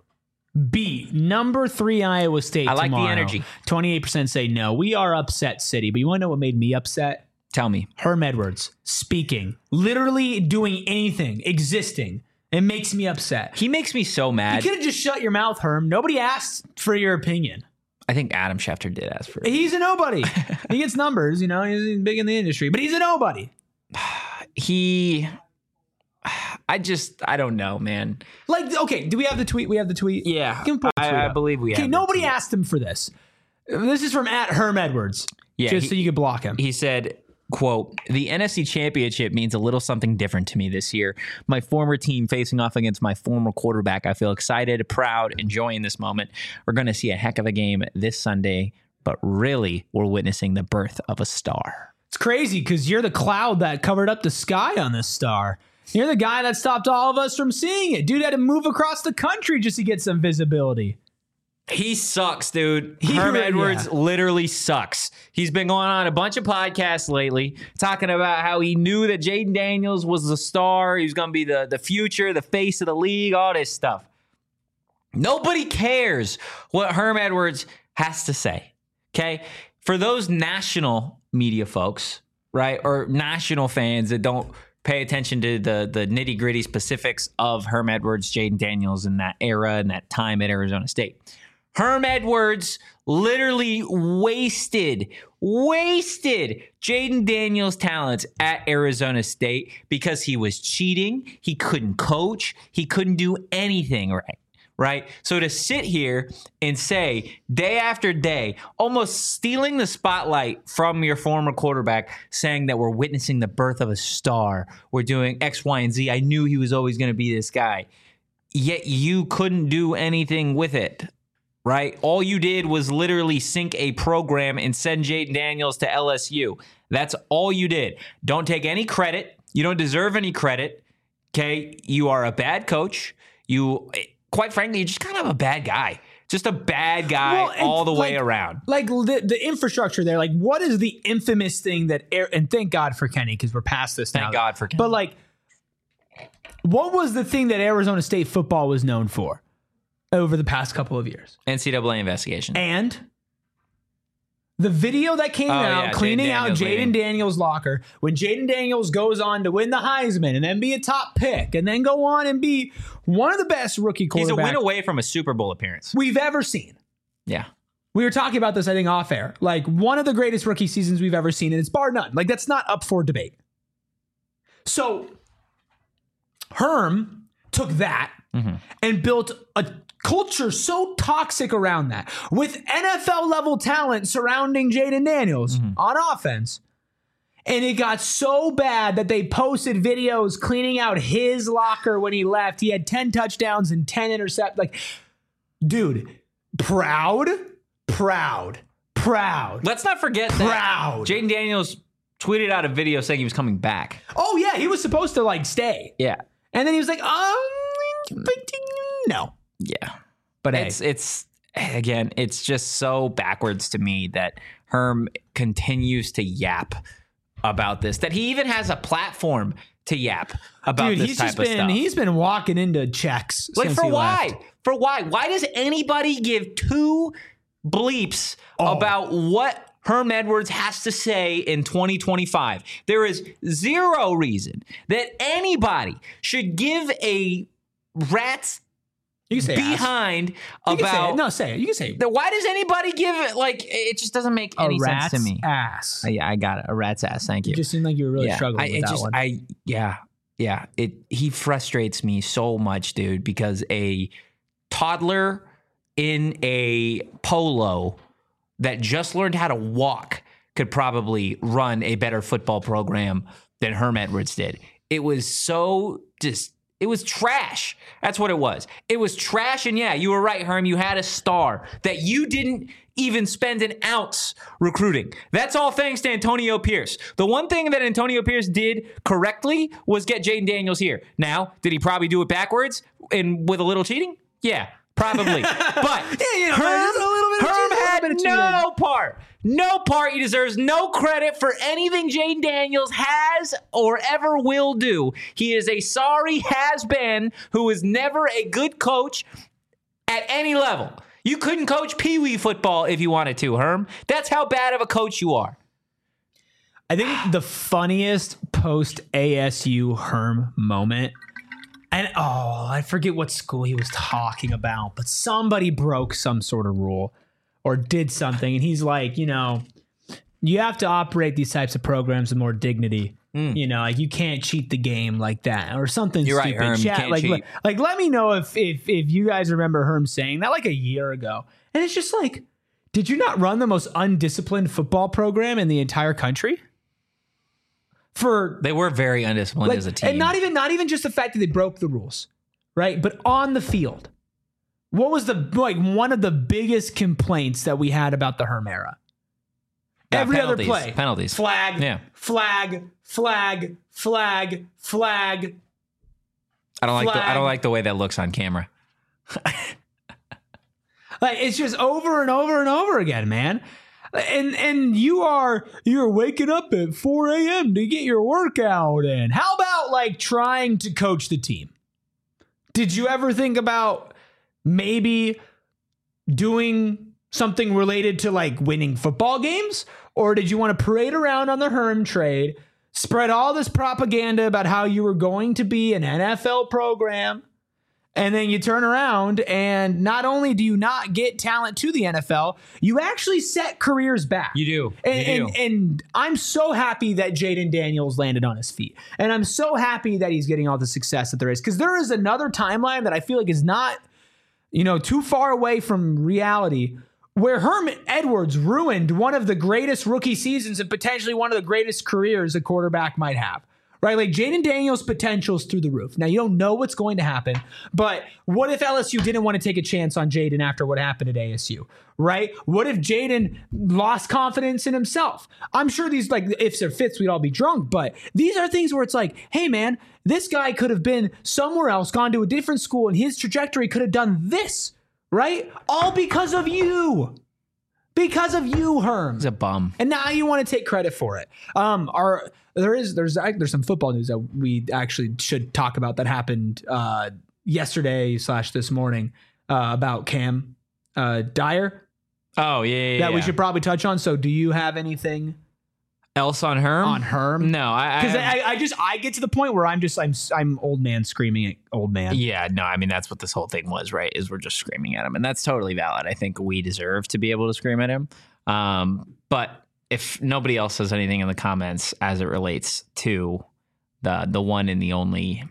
[SPEAKER 2] beat number three Iowa State
[SPEAKER 1] I like
[SPEAKER 2] tomorrow.
[SPEAKER 1] the energy.
[SPEAKER 2] twenty-eight percent say no. We are upset city. But you want to know what made me upset?
[SPEAKER 1] Tell me.
[SPEAKER 2] Herm Edwards speaking, literally doing anything, existing. It makes me upset.
[SPEAKER 1] He makes me so mad.
[SPEAKER 2] You could have just shut your mouth, Herm. Nobody asked for your opinion.
[SPEAKER 1] I think Adam Schefter did ask for it.
[SPEAKER 2] He's a nobody. He gets numbers, you know, he's big in the industry, but he's a nobody.
[SPEAKER 1] He... I just, I don't know, man.
[SPEAKER 2] Like, okay, do we have the tweet? We have the tweet?
[SPEAKER 1] Yeah,
[SPEAKER 2] Can we pull the tweet
[SPEAKER 1] I, I
[SPEAKER 2] up?
[SPEAKER 1] believe we
[SPEAKER 2] okay,
[SPEAKER 1] have.
[SPEAKER 2] nobody asked him for this. This is from at Herm Edwards.
[SPEAKER 1] Yeah,
[SPEAKER 2] just
[SPEAKER 1] he,
[SPEAKER 2] so you could block him.
[SPEAKER 1] He said, quote, "The N F C Championship means a little something different to me this year. My former team facing off against my former quarterback. I feel excited, proud, enjoying this moment. We're going to see a heck of a game this Sunday, but really, we're witnessing the birth of a star."
[SPEAKER 2] It's crazy because you're the cloud that covered up the sky on this star. You're the guy that stopped all of us from seeing it. Dude had to move across the country just to get some visibility.
[SPEAKER 1] He sucks, dude.
[SPEAKER 2] He
[SPEAKER 1] Herm
[SPEAKER 2] really-
[SPEAKER 1] Edwards
[SPEAKER 2] yeah.
[SPEAKER 1] literally sucks. He's been going on a bunch of podcasts lately talking about how he knew that Jaden Daniels was the star. He was going to be the, the future, the face of the league, all this stuff. Nobody cares what Herm Edwards has to say, okay? For those national media folks, right, or national fans that don't pay attention to the the nitty gritty specifics of Herm Edwards, Jaden Daniels, and that era and that time at Arizona State. Herm Edwards literally wasted, wasted Jaden Daniels' talents at Arizona State because he was cheating. He couldn't coach. He couldn't do anything right. Right? So to sit here and say day after day, almost stealing the spotlight from your former quarterback, saying that we're witnessing the birth of a star, we're doing X, Y, and Z. I knew he was always going to be this guy. Yet you couldn't do anything with it. Right? All you did was literally sink a program and send Jaden Daniels to L S U. That's all you did. Don't take any credit. You don't deserve any credit. Okay? You are a bad coach. You... Quite frankly, you're just kind of a bad guy. Just a bad guy well, all the
[SPEAKER 2] like,
[SPEAKER 1] way around.
[SPEAKER 2] Like the, the infrastructure there, like what is the infamous thing that, and thank God for Kenny, because we're past this
[SPEAKER 1] thank
[SPEAKER 2] now.
[SPEAKER 1] Thank God for Kenny.
[SPEAKER 2] But like, what was the thing that Arizona State football was known for over the past couple of years?
[SPEAKER 1] N C double A investigation.
[SPEAKER 2] And the video that came
[SPEAKER 1] oh,
[SPEAKER 2] out
[SPEAKER 1] yeah,
[SPEAKER 2] cleaning out Jaden Daniels' locker when Jaden Daniels goes on to win the Heisman and then be a top pick and then go on and be one of the best rookie quarterbacks.
[SPEAKER 1] He's a win away from a Super Bowl appearance
[SPEAKER 2] we've ever seen.
[SPEAKER 1] Yeah.
[SPEAKER 2] We were talking about this, I think, off air. Like one of the greatest rookie seasons we've ever seen, and it's bar none. Like that's not up for debate. So Herm took that mm-hmm. and built a culture so toxic around that with N F L level talent surrounding Jaden Daniels mm-hmm. on offense. And it got so bad that they posted videos cleaning out his locker when he left. He had ten touchdowns and ten intercepts. Like, dude, proud, proud, proud.
[SPEAKER 1] Let's not forget
[SPEAKER 2] proud.
[SPEAKER 1] that Jaden Daniels tweeted out a video saying he was coming back.
[SPEAKER 2] Oh, yeah. He was supposed to, like, stay.
[SPEAKER 1] Yeah.
[SPEAKER 2] And then he was like, um, no.
[SPEAKER 1] Yeah.
[SPEAKER 2] But
[SPEAKER 1] it's,
[SPEAKER 2] hey.
[SPEAKER 1] it's, again, it's just so backwards to me that Herm continues to yap about this, that he even has a platform to yap about
[SPEAKER 2] Dude,
[SPEAKER 1] this
[SPEAKER 2] he's
[SPEAKER 1] type
[SPEAKER 2] just
[SPEAKER 1] of
[SPEAKER 2] been,
[SPEAKER 1] stuff.
[SPEAKER 2] He's been walking into checks.
[SPEAKER 1] Like,
[SPEAKER 2] since
[SPEAKER 1] for
[SPEAKER 2] he
[SPEAKER 1] why?
[SPEAKER 2] left.
[SPEAKER 1] For why? Why does anybody give two bleeps oh. about what Herm Edwards has to say in twenty twenty-five? There is zero reason that anybody should give a rat's
[SPEAKER 2] you can say
[SPEAKER 1] behind
[SPEAKER 2] you
[SPEAKER 1] about
[SPEAKER 2] can say it. No, say it. You can say it.
[SPEAKER 1] Why does anybody give it? Like, it just doesn't make any
[SPEAKER 2] a
[SPEAKER 1] sense to me.
[SPEAKER 2] Ass.
[SPEAKER 1] Uh, yeah, I got it. A rat's ass. Thank you.
[SPEAKER 2] You just seemed like you were really
[SPEAKER 1] yeah,
[SPEAKER 2] struggling
[SPEAKER 1] I,
[SPEAKER 2] with
[SPEAKER 1] it
[SPEAKER 2] that
[SPEAKER 1] just,
[SPEAKER 2] one.
[SPEAKER 1] I yeah, yeah. It he frustrates me so much, dude, because a toddler in a polo that just learned how to walk could probably run a better football program than Herm Edwards did. It was so just. It was trash. That's what it was. It was trash. And yeah, you were right, Herm. You had a star that you didn't even spend an ounce recruiting. That's all thanks to Antonio Pierce. The one thing that Antonio Pierce did correctly was get Jaden Daniels here. Now, did he probably do it backwards and with a little cheating? Yeah, probably. But
[SPEAKER 2] yeah, you know,
[SPEAKER 1] Herm,
[SPEAKER 2] a little bit of
[SPEAKER 1] Herm
[SPEAKER 2] cheating,
[SPEAKER 1] had
[SPEAKER 2] a little bit of
[SPEAKER 1] no
[SPEAKER 2] cheating.
[SPEAKER 1] part. No part. He deserves no credit for anything Jaden Daniels has or ever will do. He is a sorry has-been who is never a good coach at any level. You couldn't coach Pee Wee football if you wanted to, Herm. That's how bad of a coach you are.
[SPEAKER 2] I think the funniest post-A S U Herm moment, and oh, I forget what school he was talking about, but somebody broke some sort of rule or did something, and he's like, you know, you have to operate these types of programs with more dignity. Mm. You know, like you can't cheat the game like that or something
[SPEAKER 1] You're
[SPEAKER 2] stupid.
[SPEAKER 1] right, Herm. You
[SPEAKER 2] Chat,
[SPEAKER 1] can't
[SPEAKER 2] like,
[SPEAKER 1] cheat.
[SPEAKER 2] like, like, let me know if, if if you guys remember Herm saying that like a year ago. And it's just like, did you not run the most undisciplined football program in the entire country? For
[SPEAKER 1] They were very undisciplined
[SPEAKER 2] like,
[SPEAKER 1] as a team.
[SPEAKER 2] and not even not even just the fact that they broke the rules, right? But on the field. What was the like one of the biggest complaints that we had about the Herm era?
[SPEAKER 1] Yeah,
[SPEAKER 2] Every
[SPEAKER 1] penalties,
[SPEAKER 2] other play.
[SPEAKER 1] Penalties.
[SPEAKER 2] Flag,
[SPEAKER 1] Yeah.
[SPEAKER 2] flag, flag, flag, flag.
[SPEAKER 1] I don't like the, I
[SPEAKER 2] flag.
[SPEAKER 1] don't like the way that looks on camera.
[SPEAKER 2] Like it's just over and over and over again, man. And and you are you're waking up at four a.m. to get your workout in. How about like trying to coach the team? Did you ever think about maybe doing something related to like winning football games? Or did you want to parade around on the Herm trade, spread all this propaganda about how you were going to be an N F L program, And then you turn around and not only do you not get talent to the N F L, you actually set careers back.
[SPEAKER 1] You do.
[SPEAKER 2] And,
[SPEAKER 1] You do.
[SPEAKER 2] and, and I'm so happy that Jaden Daniels landed on his feet. And I'm so happy that he's getting all the success that there is. Because there is another timeline that I feel like is not, you know, too far away from reality, where Herman Edwards ruined one of the greatest rookie seasons and potentially one of the greatest careers a quarterback might have. Right? Like Jaden Daniels' potential is through the roof. Now, you don't know what's going to happen, but what if L S U didn't want to take a chance on Jaden after what happened at A S U? Right? What if Jaden lost confidence in himself? I'm sure these, like, ifs or fits, we'd all be drunk, but these are things where it's like, hey, man, this guy could have been somewhere else, gone to a different school, and his trajectory could have done this, right? All because of you. Because of you, Herm.
[SPEAKER 1] He's a bum.
[SPEAKER 2] And now you want to take credit for it. Um, our there is there's there's some football news that we actually should talk about that happened uh, yesterday slash this morning uh, about Cam uh, Dyer
[SPEAKER 1] Oh, yeah, yeah,
[SPEAKER 2] that
[SPEAKER 1] yeah.
[SPEAKER 2] we should probably touch on. So, do you have anything
[SPEAKER 1] Else on Herm?
[SPEAKER 2] on Herm?
[SPEAKER 1] No, I...
[SPEAKER 2] Because
[SPEAKER 1] I,
[SPEAKER 2] I, I just I get to the point where I'm just I'm I'm old man screaming at old man.
[SPEAKER 1] Yeah, no, I mean, that's what this whole thing was, right? Is we're just screaming at him. And that's totally valid. I think we deserve to be able to scream at him. Um, but if nobody else says anything in the comments as it relates to the the one and the only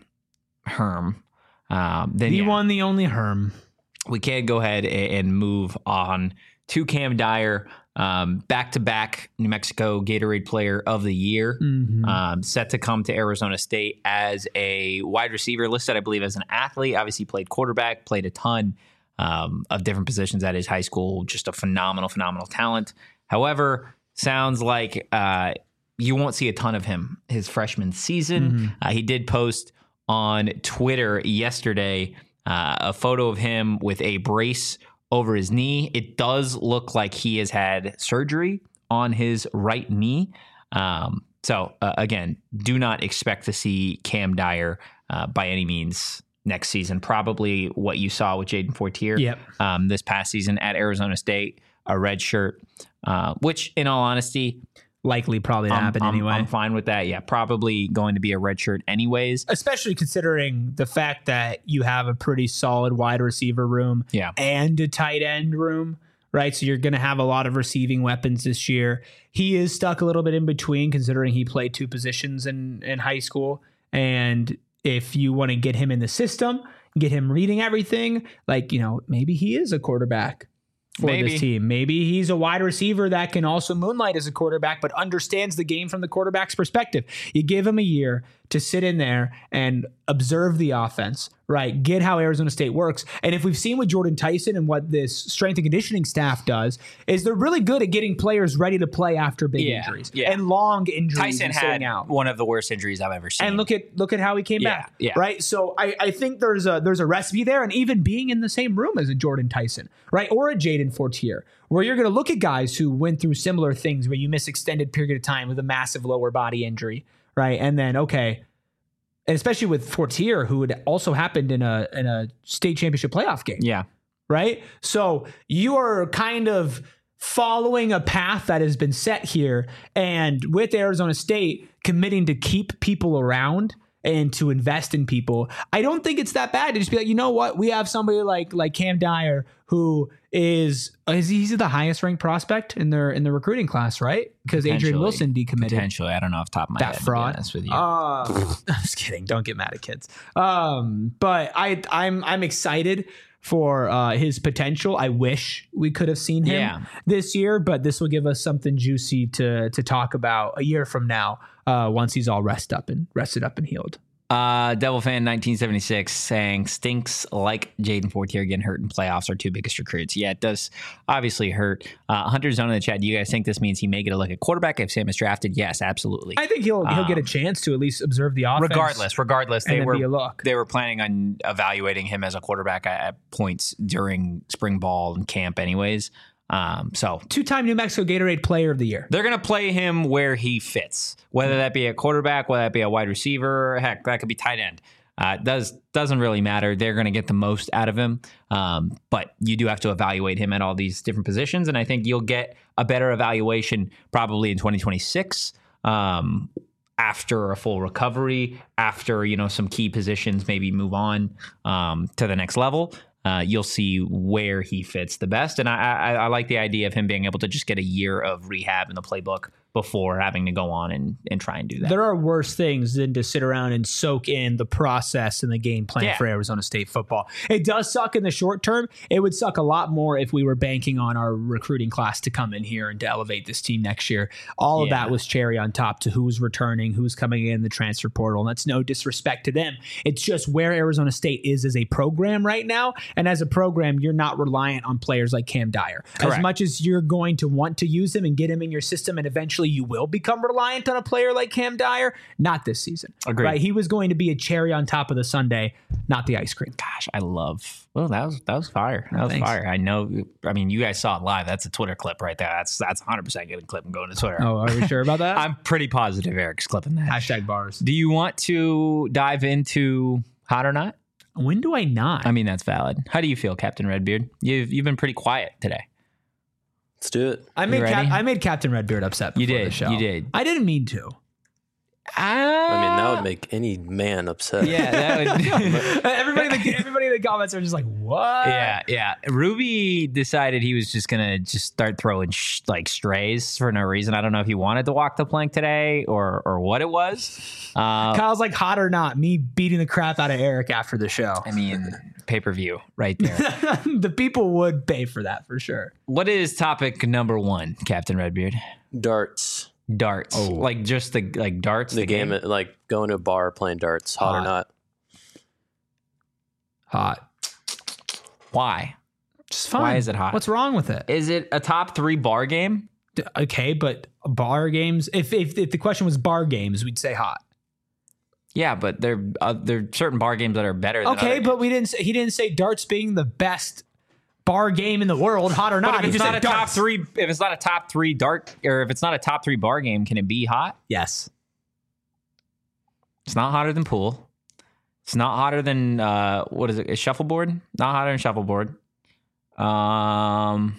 [SPEAKER 1] Herm, um, then
[SPEAKER 2] The
[SPEAKER 1] yeah,
[SPEAKER 2] one, the only Herm.
[SPEAKER 1] we can go ahead a- and move on to Cam Dyer, um, back-to-back New Mexico Gatorade Player of the Year,
[SPEAKER 2] Mhm.
[SPEAKER 1] um, set to come to Arizona State as a wide receiver, listed, I believe, as an athlete. Obviously played quarterback, played a ton um, of different positions at his high school. Just a phenomenal, phenomenal talent. However, sounds like uh, you won't see a ton of him his freshman season.
[SPEAKER 2] Mhm.
[SPEAKER 1] Uh, he did post on Twitter yesterday uh, a photo of him with a brace over his knee. It does look like he has had surgery on his right knee. Um, so uh, again, do not expect to see Cam Dyer uh, by any means next season. Probably what you saw with Jaden Fortier
[SPEAKER 2] Yep.
[SPEAKER 1] um, this past season at Arizona State, a red shirt, uh, which in all honesty,
[SPEAKER 2] Likely probably to
[SPEAKER 1] I'm,
[SPEAKER 2] happen
[SPEAKER 1] I'm-
[SPEAKER 2] anyway.
[SPEAKER 1] I'm fine with that. Yeah, probably going to be a red shirt anyways.
[SPEAKER 2] Especially considering the fact that you have a pretty solid wide receiver room
[SPEAKER 1] Yeah.
[SPEAKER 2] and a tight end room, right? So you're going to have a lot of receiving weapons this year. He is stuck a little bit in between considering he played two positions in, in high school. And if you want to get him in the system, get him reading everything, like, you know, maybe he is a quarterback for
[SPEAKER 1] Maybe.
[SPEAKER 2] this team. Maybe he's a wide receiver that can also moonlight as a quarterback, but understands the game from the quarterback's perspective. You give him a year to sit in there and observe the offense, right? Get how Arizona State works. And if we've seen with Jordan Tyson and what this strength and conditioning staff does, is they're really good at getting players ready to play after big
[SPEAKER 1] Yeah,
[SPEAKER 2] injuries
[SPEAKER 1] yeah.
[SPEAKER 2] and long injuries
[SPEAKER 1] Tyson
[SPEAKER 2] and
[SPEAKER 1] had
[SPEAKER 2] sitting out.
[SPEAKER 1] one of the worst injuries I've ever seen.
[SPEAKER 2] And look at look at how he came
[SPEAKER 1] Yeah,
[SPEAKER 2] back,
[SPEAKER 1] yeah.
[SPEAKER 2] right? So I, I think there's a there's a recipe there, and even being in the same room as a Jordan Tyson, right, or a Jaden Fortier, where you're going to look at guys who went through similar things, where you miss extended period of time with a massive lower body injury, right, and then okay, and especially with Fortier, who had also happened in a in a state championship playoff game,
[SPEAKER 1] yeah.
[SPEAKER 2] right? So you are kind of following a path that has been set here, and with Arizona State committing to keep people around and to invest in people, I don't think it's that bad to just be like, you know what, we have somebody like like Cam Dyer who is is he's the highest ranked prospect in their in the recruiting class, right? Because Adrian
[SPEAKER 1] Potentially.
[SPEAKER 2] Wilson decommitted.
[SPEAKER 1] Potentially. I don't know off the top of my
[SPEAKER 2] That
[SPEAKER 1] head,
[SPEAKER 2] fraud.
[SPEAKER 1] to be honest with you.
[SPEAKER 2] Uh, I'm just kidding. Don't get mad at kids. Um, but I, I'm, I'm excited for uh, his potential. I wish we could have seen him
[SPEAKER 1] Yeah.
[SPEAKER 2] this year, but this will give us something juicy to to talk about a year from now, uh, once he's all rested up and rested up and healed.
[SPEAKER 1] Uh, Devil Fan nineteen seventy-six saying stinks like Jaden Fortier getting hurt in playoffs, our two biggest recruits. Yeah, it does obviously hurt. Uh, Hunter Zone in the chat. Do you guys think this means he may get a look at quarterback if Sam is drafted? Yes, absolutely.
[SPEAKER 2] I think he'll he'll get a
[SPEAKER 1] Um,
[SPEAKER 2] chance to at least observe the offense.
[SPEAKER 1] Regardless, regardless,
[SPEAKER 2] and
[SPEAKER 1] they
[SPEAKER 2] then
[SPEAKER 1] were
[SPEAKER 2] be a look.
[SPEAKER 1] they were planning on evaluating him as a quarterback at, at points during spring ball and camp, anyways. Um, so
[SPEAKER 2] Two-time New Mexico Gatorade Player of the Year.
[SPEAKER 1] they're going to play him where he fits, whether that be a quarterback, whether that be a wide receiver, heck, that could be tight end. Uh, does doesn't really matter. They're going to get the most out of him, um, but you do have to evaluate him at all these different positions, and I think you'll get a better evaluation probably in twenty twenty-six. Um, after a full recovery, after, you know, some key positions maybe move on um, to the next level, uh, you'll see where he fits the best. And I, I, I like the idea of him being able to just get a year of rehab in the playbook before having to go on and, and try and do that.
[SPEAKER 2] There are worse things than to sit around and soak in the process and the game plan
[SPEAKER 1] Yeah.
[SPEAKER 2] for Arizona State football. It does suck in the short term. It would suck a lot more if we were banking on our recruiting class to come in here and to elevate this team next year. All of
[SPEAKER 1] Yeah.
[SPEAKER 2] that was cherry on top to who's returning, who's coming in the transfer portal. And that's no disrespect to them. It's just where Arizona State is as a program right now. And as a program, you're not reliant on players like Cam Dyer.
[SPEAKER 1] Correct.
[SPEAKER 2] As much as you're going to want to use him and get him in your system, and eventually you will become reliant on a player like Cam Dyer, not this season.
[SPEAKER 1] Agreed.
[SPEAKER 2] Right? He was going to be a cherry on top of the sundae, not the ice cream.
[SPEAKER 1] Gosh, I love. Well, that was that was fire. That was
[SPEAKER 2] Thanks.
[SPEAKER 1] fire. I know. I mean, you guys saw it live. That's a Twitter clip right there. That's that's one hundred percent getting clip and going to Twitter.
[SPEAKER 2] Oh, are we sure about that?
[SPEAKER 1] I'm pretty positive Eric's clipping that.
[SPEAKER 2] Hashtag bars.
[SPEAKER 1] Do you want to dive into hot or not?
[SPEAKER 2] When do I not?
[SPEAKER 1] I mean, that's valid. How do you feel, Captain Redbeard? You've you've been pretty quiet today.
[SPEAKER 3] Let's do it.
[SPEAKER 2] I made
[SPEAKER 1] You
[SPEAKER 2] Cap-
[SPEAKER 1] ready?
[SPEAKER 2] I made Captain Redbeard upset.
[SPEAKER 1] You
[SPEAKER 2] before
[SPEAKER 1] did.
[SPEAKER 2] The show.
[SPEAKER 1] You did.
[SPEAKER 2] I didn't mean to.
[SPEAKER 3] I mean, that would make any man upset.
[SPEAKER 1] Yeah, that would.
[SPEAKER 2] everybody, in the, everybody in the comments are just like, "What?"
[SPEAKER 1] Yeah, yeah. Ruby decided he was just gonna just start throwing sh- like strays for no reason. I don't know if he wanted to walk the plank today or or what it was. Uh,
[SPEAKER 2] Kyle's like, "Hot or not?" Me beating the crap out of Eric after the show.
[SPEAKER 1] I mean, pay per view right there.
[SPEAKER 2] The people would pay for that for sure.
[SPEAKER 1] What is topic number one, Captain Redbeard?
[SPEAKER 3] Darts.
[SPEAKER 1] Darts,
[SPEAKER 2] Oh.
[SPEAKER 1] like just the like darts.
[SPEAKER 3] The, game, like going to a bar playing darts, hot,
[SPEAKER 2] Hot.
[SPEAKER 3] or not.
[SPEAKER 2] Hot.
[SPEAKER 1] Why?
[SPEAKER 2] Just fine.
[SPEAKER 1] Why is it hot?
[SPEAKER 2] What's wrong with it?
[SPEAKER 1] Is it a top three bar game?
[SPEAKER 2] D- Okay, but bar games. If, if if the question was bar games, we'd say hot.
[SPEAKER 1] Yeah, but there uh, there are certain bar games that are better. Than
[SPEAKER 2] Okay,
[SPEAKER 1] other
[SPEAKER 2] but we didn't. Say, he didn't say darts being the best bar game in the world, hot or not.
[SPEAKER 1] But if
[SPEAKER 2] He
[SPEAKER 1] it's
[SPEAKER 2] just
[SPEAKER 1] not a
[SPEAKER 2] said
[SPEAKER 1] top
[SPEAKER 2] darts.
[SPEAKER 1] three, if it's not a top three dart, or if it's not a top three bar game, can it be hot?
[SPEAKER 2] Yes.
[SPEAKER 1] It's not hotter than pool. It's not hotter than uh, what is it? Is shuffleboard? Not hotter than shuffleboard. Um,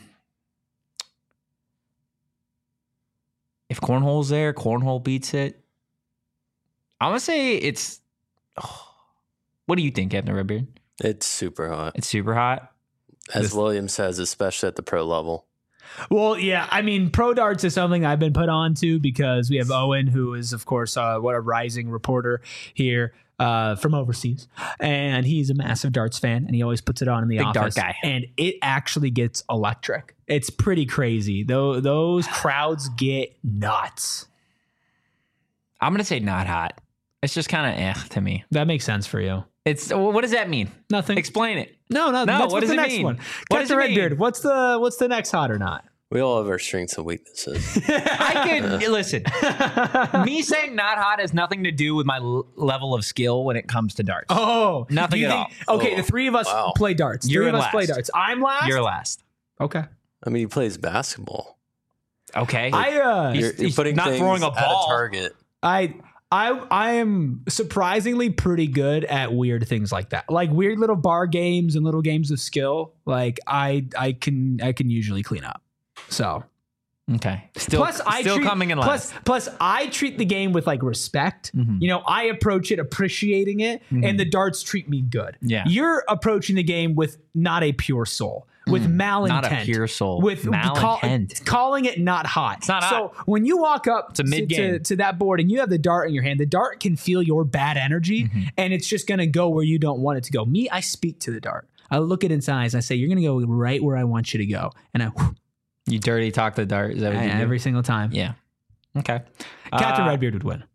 [SPEAKER 1] if cornhole's there, cornhole beats it. I'm gonna say it's. Oh, what do you think, Captain Redbeard?
[SPEAKER 3] It's super hot.
[SPEAKER 1] It's super hot.
[SPEAKER 3] As
[SPEAKER 1] This-
[SPEAKER 3] William says, especially at the pro level.
[SPEAKER 2] Well, yeah. I mean, pro darts is something I've been put on to because we have Owen, who is, of course, uh, what a rising reporter here uh, from overseas, and he's a massive darts fan, and he always puts it on in the
[SPEAKER 1] Big dart
[SPEAKER 2] office.
[SPEAKER 1] guy.
[SPEAKER 2] And it actually gets electric. It's pretty crazy. Though those crowds get nuts.
[SPEAKER 1] I'm gonna say not hot. It's just kind of eh to me.
[SPEAKER 2] That makes sense for you.
[SPEAKER 1] It's what does that mean?
[SPEAKER 2] Nothing.
[SPEAKER 1] Explain it.
[SPEAKER 2] No, no.
[SPEAKER 1] No,
[SPEAKER 2] That's
[SPEAKER 1] what
[SPEAKER 2] what's
[SPEAKER 1] does
[SPEAKER 2] the
[SPEAKER 1] it
[SPEAKER 2] next
[SPEAKER 1] mean?
[SPEAKER 2] one.
[SPEAKER 1] What does
[SPEAKER 2] Captain
[SPEAKER 1] it mean?
[SPEAKER 2] Redbeard. What's the what's the next hot or not?
[SPEAKER 3] We all have our strengths and weaknesses.
[SPEAKER 1] I could listen. Me saying not hot has nothing to do with my l- level of skill when it comes to darts.
[SPEAKER 2] Oh,
[SPEAKER 1] Nothing
[SPEAKER 2] do you
[SPEAKER 1] at
[SPEAKER 2] think- Okay,
[SPEAKER 3] Oh,
[SPEAKER 2] the three of us
[SPEAKER 3] wow.
[SPEAKER 2] play darts.
[SPEAKER 1] You're
[SPEAKER 2] three of us
[SPEAKER 1] last.
[SPEAKER 2] play darts. I'm last.
[SPEAKER 1] You're last.
[SPEAKER 2] okay.
[SPEAKER 3] I mean, he plays basketball.
[SPEAKER 1] Okay.
[SPEAKER 2] I uh,
[SPEAKER 1] He's-
[SPEAKER 3] You're, you're
[SPEAKER 1] he's
[SPEAKER 3] putting
[SPEAKER 1] not
[SPEAKER 3] things
[SPEAKER 1] throwing a
[SPEAKER 3] at
[SPEAKER 1] ball.
[SPEAKER 3] a target.
[SPEAKER 2] I I I am surprisingly pretty good at weird things like that. Like weird little bar games and little games of skill. Like I I can I can usually clean up. So
[SPEAKER 1] okay. Still,
[SPEAKER 2] plus I
[SPEAKER 1] still
[SPEAKER 2] treat,
[SPEAKER 1] coming in
[SPEAKER 2] plus
[SPEAKER 1] last.
[SPEAKER 2] plus I treat the game with like respect.
[SPEAKER 1] Mhm.
[SPEAKER 2] You know, I approach it appreciating it, and the darts treat me good.
[SPEAKER 1] Yeah.
[SPEAKER 2] You're approaching the game with not a pure soul, with malintent,
[SPEAKER 1] Not a pure soul.
[SPEAKER 2] with call-
[SPEAKER 1] malintent.
[SPEAKER 2] calling it not hot. It's
[SPEAKER 1] not
[SPEAKER 2] so
[SPEAKER 1] hot.
[SPEAKER 2] when you walk up
[SPEAKER 1] a
[SPEAKER 2] to,
[SPEAKER 1] mid-game.
[SPEAKER 2] to, to that board and you have the dart in your hand, the dart can feel your bad energy,
[SPEAKER 1] Mm-hmm.
[SPEAKER 2] and it's just going to go where you don't want it to go. Me, I speak to the dart. I look it in its eyes. I say, "You're going to go right where I want you to go," and I,
[SPEAKER 1] You dirty talk the dart. Is that what you do?
[SPEAKER 2] every single time.
[SPEAKER 1] Yeah. Okay.
[SPEAKER 2] Captain
[SPEAKER 1] Uh,
[SPEAKER 2] Redbeard would win.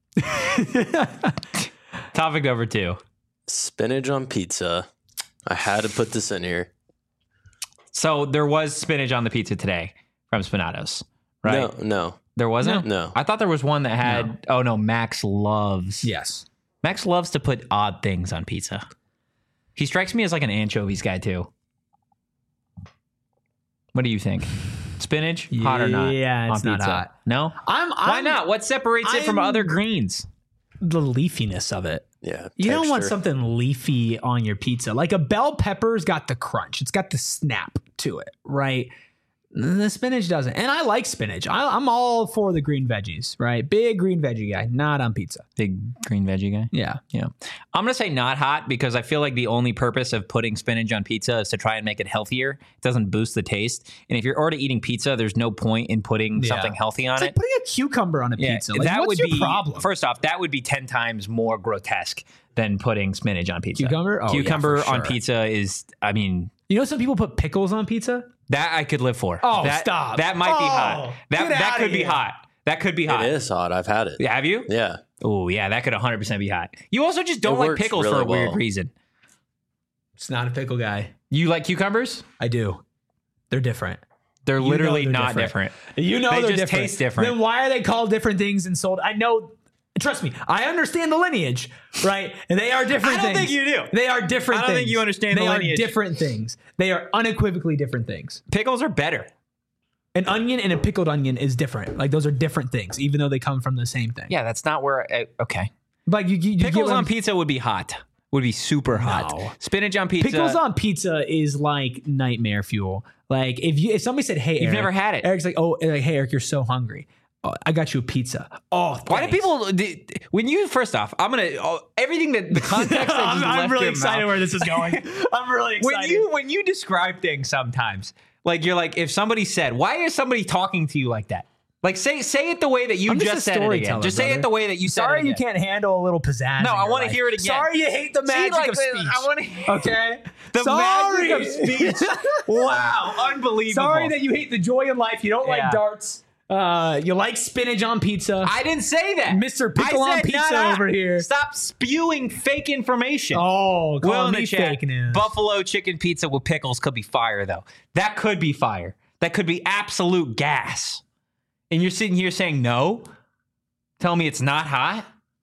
[SPEAKER 1] Topic number two.
[SPEAKER 3] Spinach on pizza. I had to put this in here.
[SPEAKER 1] So there was spinach on the pizza today from Spinatos, right?
[SPEAKER 3] No, no.
[SPEAKER 1] There wasn't?
[SPEAKER 3] No.
[SPEAKER 1] I thought there was one that had, oh no, Max loves.
[SPEAKER 2] Yes.
[SPEAKER 1] Max loves to put odd things on pizza. He strikes me as like an anchovies guy too. What do you think? Spinach, hot or not?
[SPEAKER 2] Yeah, it's
[SPEAKER 1] on
[SPEAKER 2] not
[SPEAKER 1] pizza?
[SPEAKER 2] hot.
[SPEAKER 1] No?
[SPEAKER 2] I'm, I'm
[SPEAKER 1] Why not? What separates it from
[SPEAKER 2] I'm-
[SPEAKER 1] other greens?
[SPEAKER 2] the leafiness of it.
[SPEAKER 3] Yeah.
[SPEAKER 2] You don't want
[SPEAKER 3] texture.
[SPEAKER 2] something leafy on your pizza. Like a bell pepper's got the crunch. It's got the snap to it, right? The spinach doesn't. And I like spinach. I, I'm all for the green veggies, right? Big green veggie guy, not on pizza.
[SPEAKER 1] Big green veggie guy.
[SPEAKER 2] Yeah.
[SPEAKER 1] Yeah. I'm going to say not hot because I feel like the only purpose of putting spinach on pizza is to try and make it healthier. It doesn't boost the taste. And if you're already eating pizza, there's no point in putting
[SPEAKER 2] Yeah.
[SPEAKER 1] something healthy on
[SPEAKER 2] It's
[SPEAKER 1] it.
[SPEAKER 2] like putting a cucumber on a
[SPEAKER 1] Yeah,
[SPEAKER 2] pizza. Like,
[SPEAKER 1] that
[SPEAKER 2] what's
[SPEAKER 1] would
[SPEAKER 2] your
[SPEAKER 1] be
[SPEAKER 2] problem?
[SPEAKER 1] First off, that would be ten times more grotesque than putting spinach on pizza.
[SPEAKER 2] Cucumber? Oh, yeah,
[SPEAKER 1] Cucumber
[SPEAKER 2] for
[SPEAKER 1] on
[SPEAKER 2] sure.
[SPEAKER 1] pizza is, I mean,
[SPEAKER 2] You know, some people put pickles on pizza.
[SPEAKER 1] that I could live for.
[SPEAKER 2] Oh,
[SPEAKER 1] that,
[SPEAKER 2] stop.
[SPEAKER 1] That might be
[SPEAKER 2] Oh,
[SPEAKER 1] hot. That
[SPEAKER 2] get
[SPEAKER 1] that
[SPEAKER 2] outta
[SPEAKER 1] could be
[SPEAKER 2] here.
[SPEAKER 1] hot. That could be hot.
[SPEAKER 3] It is hot. I've had it.
[SPEAKER 1] Yeah, have you?
[SPEAKER 3] Yeah.
[SPEAKER 1] Oh, yeah, that could one hundred percent be hot. You also just don't
[SPEAKER 3] It
[SPEAKER 1] like
[SPEAKER 3] works
[SPEAKER 1] pickles
[SPEAKER 3] really
[SPEAKER 1] for a weird
[SPEAKER 3] well.
[SPEAKER 1] reason.
[SPEAKER 2] It's not a pickle guy.
[SPEAKER 1] You like cucumbers?
[SPEAKER 2] I do. They're different.
[SPEAKER 1] They're
[SPEAKER 2] You know
[SPEAKER 1] literally
[SPEAKER 2] they're
[SPEAKER 1] not
[SPEAKER 2] different.
[SPEAKER 1] different.
[SPEAKER 2] You know
[SPEAKER 1] They
[SPEAKER 2] they're
[SPEAKER 1] just
[SPEAKER 2] different.
[SPEAKER 1] taste different.
[SPEAKER 2] Then why are they called different things and sold? I know. Trust me, I understand the lineage, right? And they are different
[SPEAKER 1] I don't
[SPEAKER 2] things.
[SPEAKER 1] think you do.
[SPEAKER 2] They are different
[SPEAKER 1] I don't
[SPEAKER 2] things.
[SPEAKER 1] think you understand
[SPEAKER 2] they
[SPEAKER 1] the
[SPEAKER 2] are
[SPEAKER 1] lineage.
[SPEAKER 2] different things. They are unequivocally different things.
[SPEAKER 1] Pickles are better.
[SPEAKER 2] An onion and a pickled onion is different. Like those are different things, even though they come from the same thing.
[SPEAKER 1] Yeah, that's not where. I, okay.
[SPEAKER 2] Like you, you, you get
[SPEAKER 1] Pickles
[SPEAKER 2] what
[SPEAKER 1] on
[SPEAKER 2] I'm-
[SPEAKER 1] pizza would be hot. Would be super hot.
[SPEAKER 2] No.
[SPEAKER 1] Spinach on pizza.
[SPEAKER 2] Pickles on pizza is like nightmare fuel. Like if you if somebody said, "Hey,
[SPEAKER 1] You've
[SPEAKER 2] Eric,"
[SPEAKER 1] never had it.
[SPEAKER 2] Eric's like, "Oh, like, hey, Eric, you're so hungry. Oh, I got you a pizza." Oh,
[SPEAKER 1] Why do
[SPEAKER 2] thanks.
[SPEAKER 1] people? the- When you first off, I'm gonna oh, everything that the context that
[SPEAKER 2] I'm,
[SPEAKER 1] just
[SPEAKER 2] I'm
[SPEAKER 1] left
[SPEAKER 2] really
[SPEAKER 1] your
[SPEAKER 2] excited
[SPEAKER 1] mouth-
[SPEAKER 2] where this is going. I'm really excited.
[SPEAKER 1] when you when you describe things sometimes, like you're like, if somebody said, "Why is somebody talking to you like that?" Like say say it the way that you
[SPEAKER 2] I'm just
[SPEAKER 1] just
[SPEAKER 2] a
[SPEAKER 1] said it again.
[SPEAKER 2] storyteller,
[SPEAKER 1] Just say
[SPEAKER 2] brother.
[SPEAKER 1] it the way that you said
[SPEAKER 2] Sorry
[SPEAKER 1] it
[SPEAKER 2] you
[SPEAKER 1] again.
[SPEAKER 2] can't handle a little pizzazz.
[SPEAKER 1] No,
[SPEAKER 2] in
[SPEAKER 1] I
[SPEAKER 2] your
[SPEAKER 1] wanna
[SPEAKER 2] life.
[SPEAKER 1] hear it again.
[SPEAKER 2] Sorry you hate the
[SPEAKER 1] See,
[SPEAKER 2] magic
[SPEAKER 1] like,
[SPEAKER 2] of
[SPEAKER 1] the-
[SPEAKER 2] speech.
[SPEAKER 1] I wanna-
[SPEAKER 2] Okay,
[SPEAKER 1] The
[SPEAKER 2] Sorry.
[SPEAKER 1] magic of speech. Wow, unbelievable.
[SPEAKER 2] Sorry that you hate the joy in life. You don't
[SPEAKER 1] Yeah.
[SPEAKER 2] like darts. Uh, you like spinach on pizza.
[SPEAKER 1] I didn't say that.
[SPEAKER 2] Mister Pickle
[SPEAKER 1] I
[SPEAKER 2] on
[SPEAKER 1] said
[SPEAKER 2] pizza
[SPEAKER 1] not
[SPEAKER 2] over here.
[SPEAKER 1] Stop spewing fake information.
[SPEAKER 2] oh,
[SPEAKER 1] Will
[SPEAKER 2] call
[SPEAKER 1] in
[SPEAKER 2] me
[SPEAKER 1] the chat,
[SPEAKER 2] fake news.
[SPEAKER 1] Buffalo chicken pizza with pickles could be fire, though. That could be fire. That could be absolute gas. And you're sitting here saying no? Tell me it's not hot?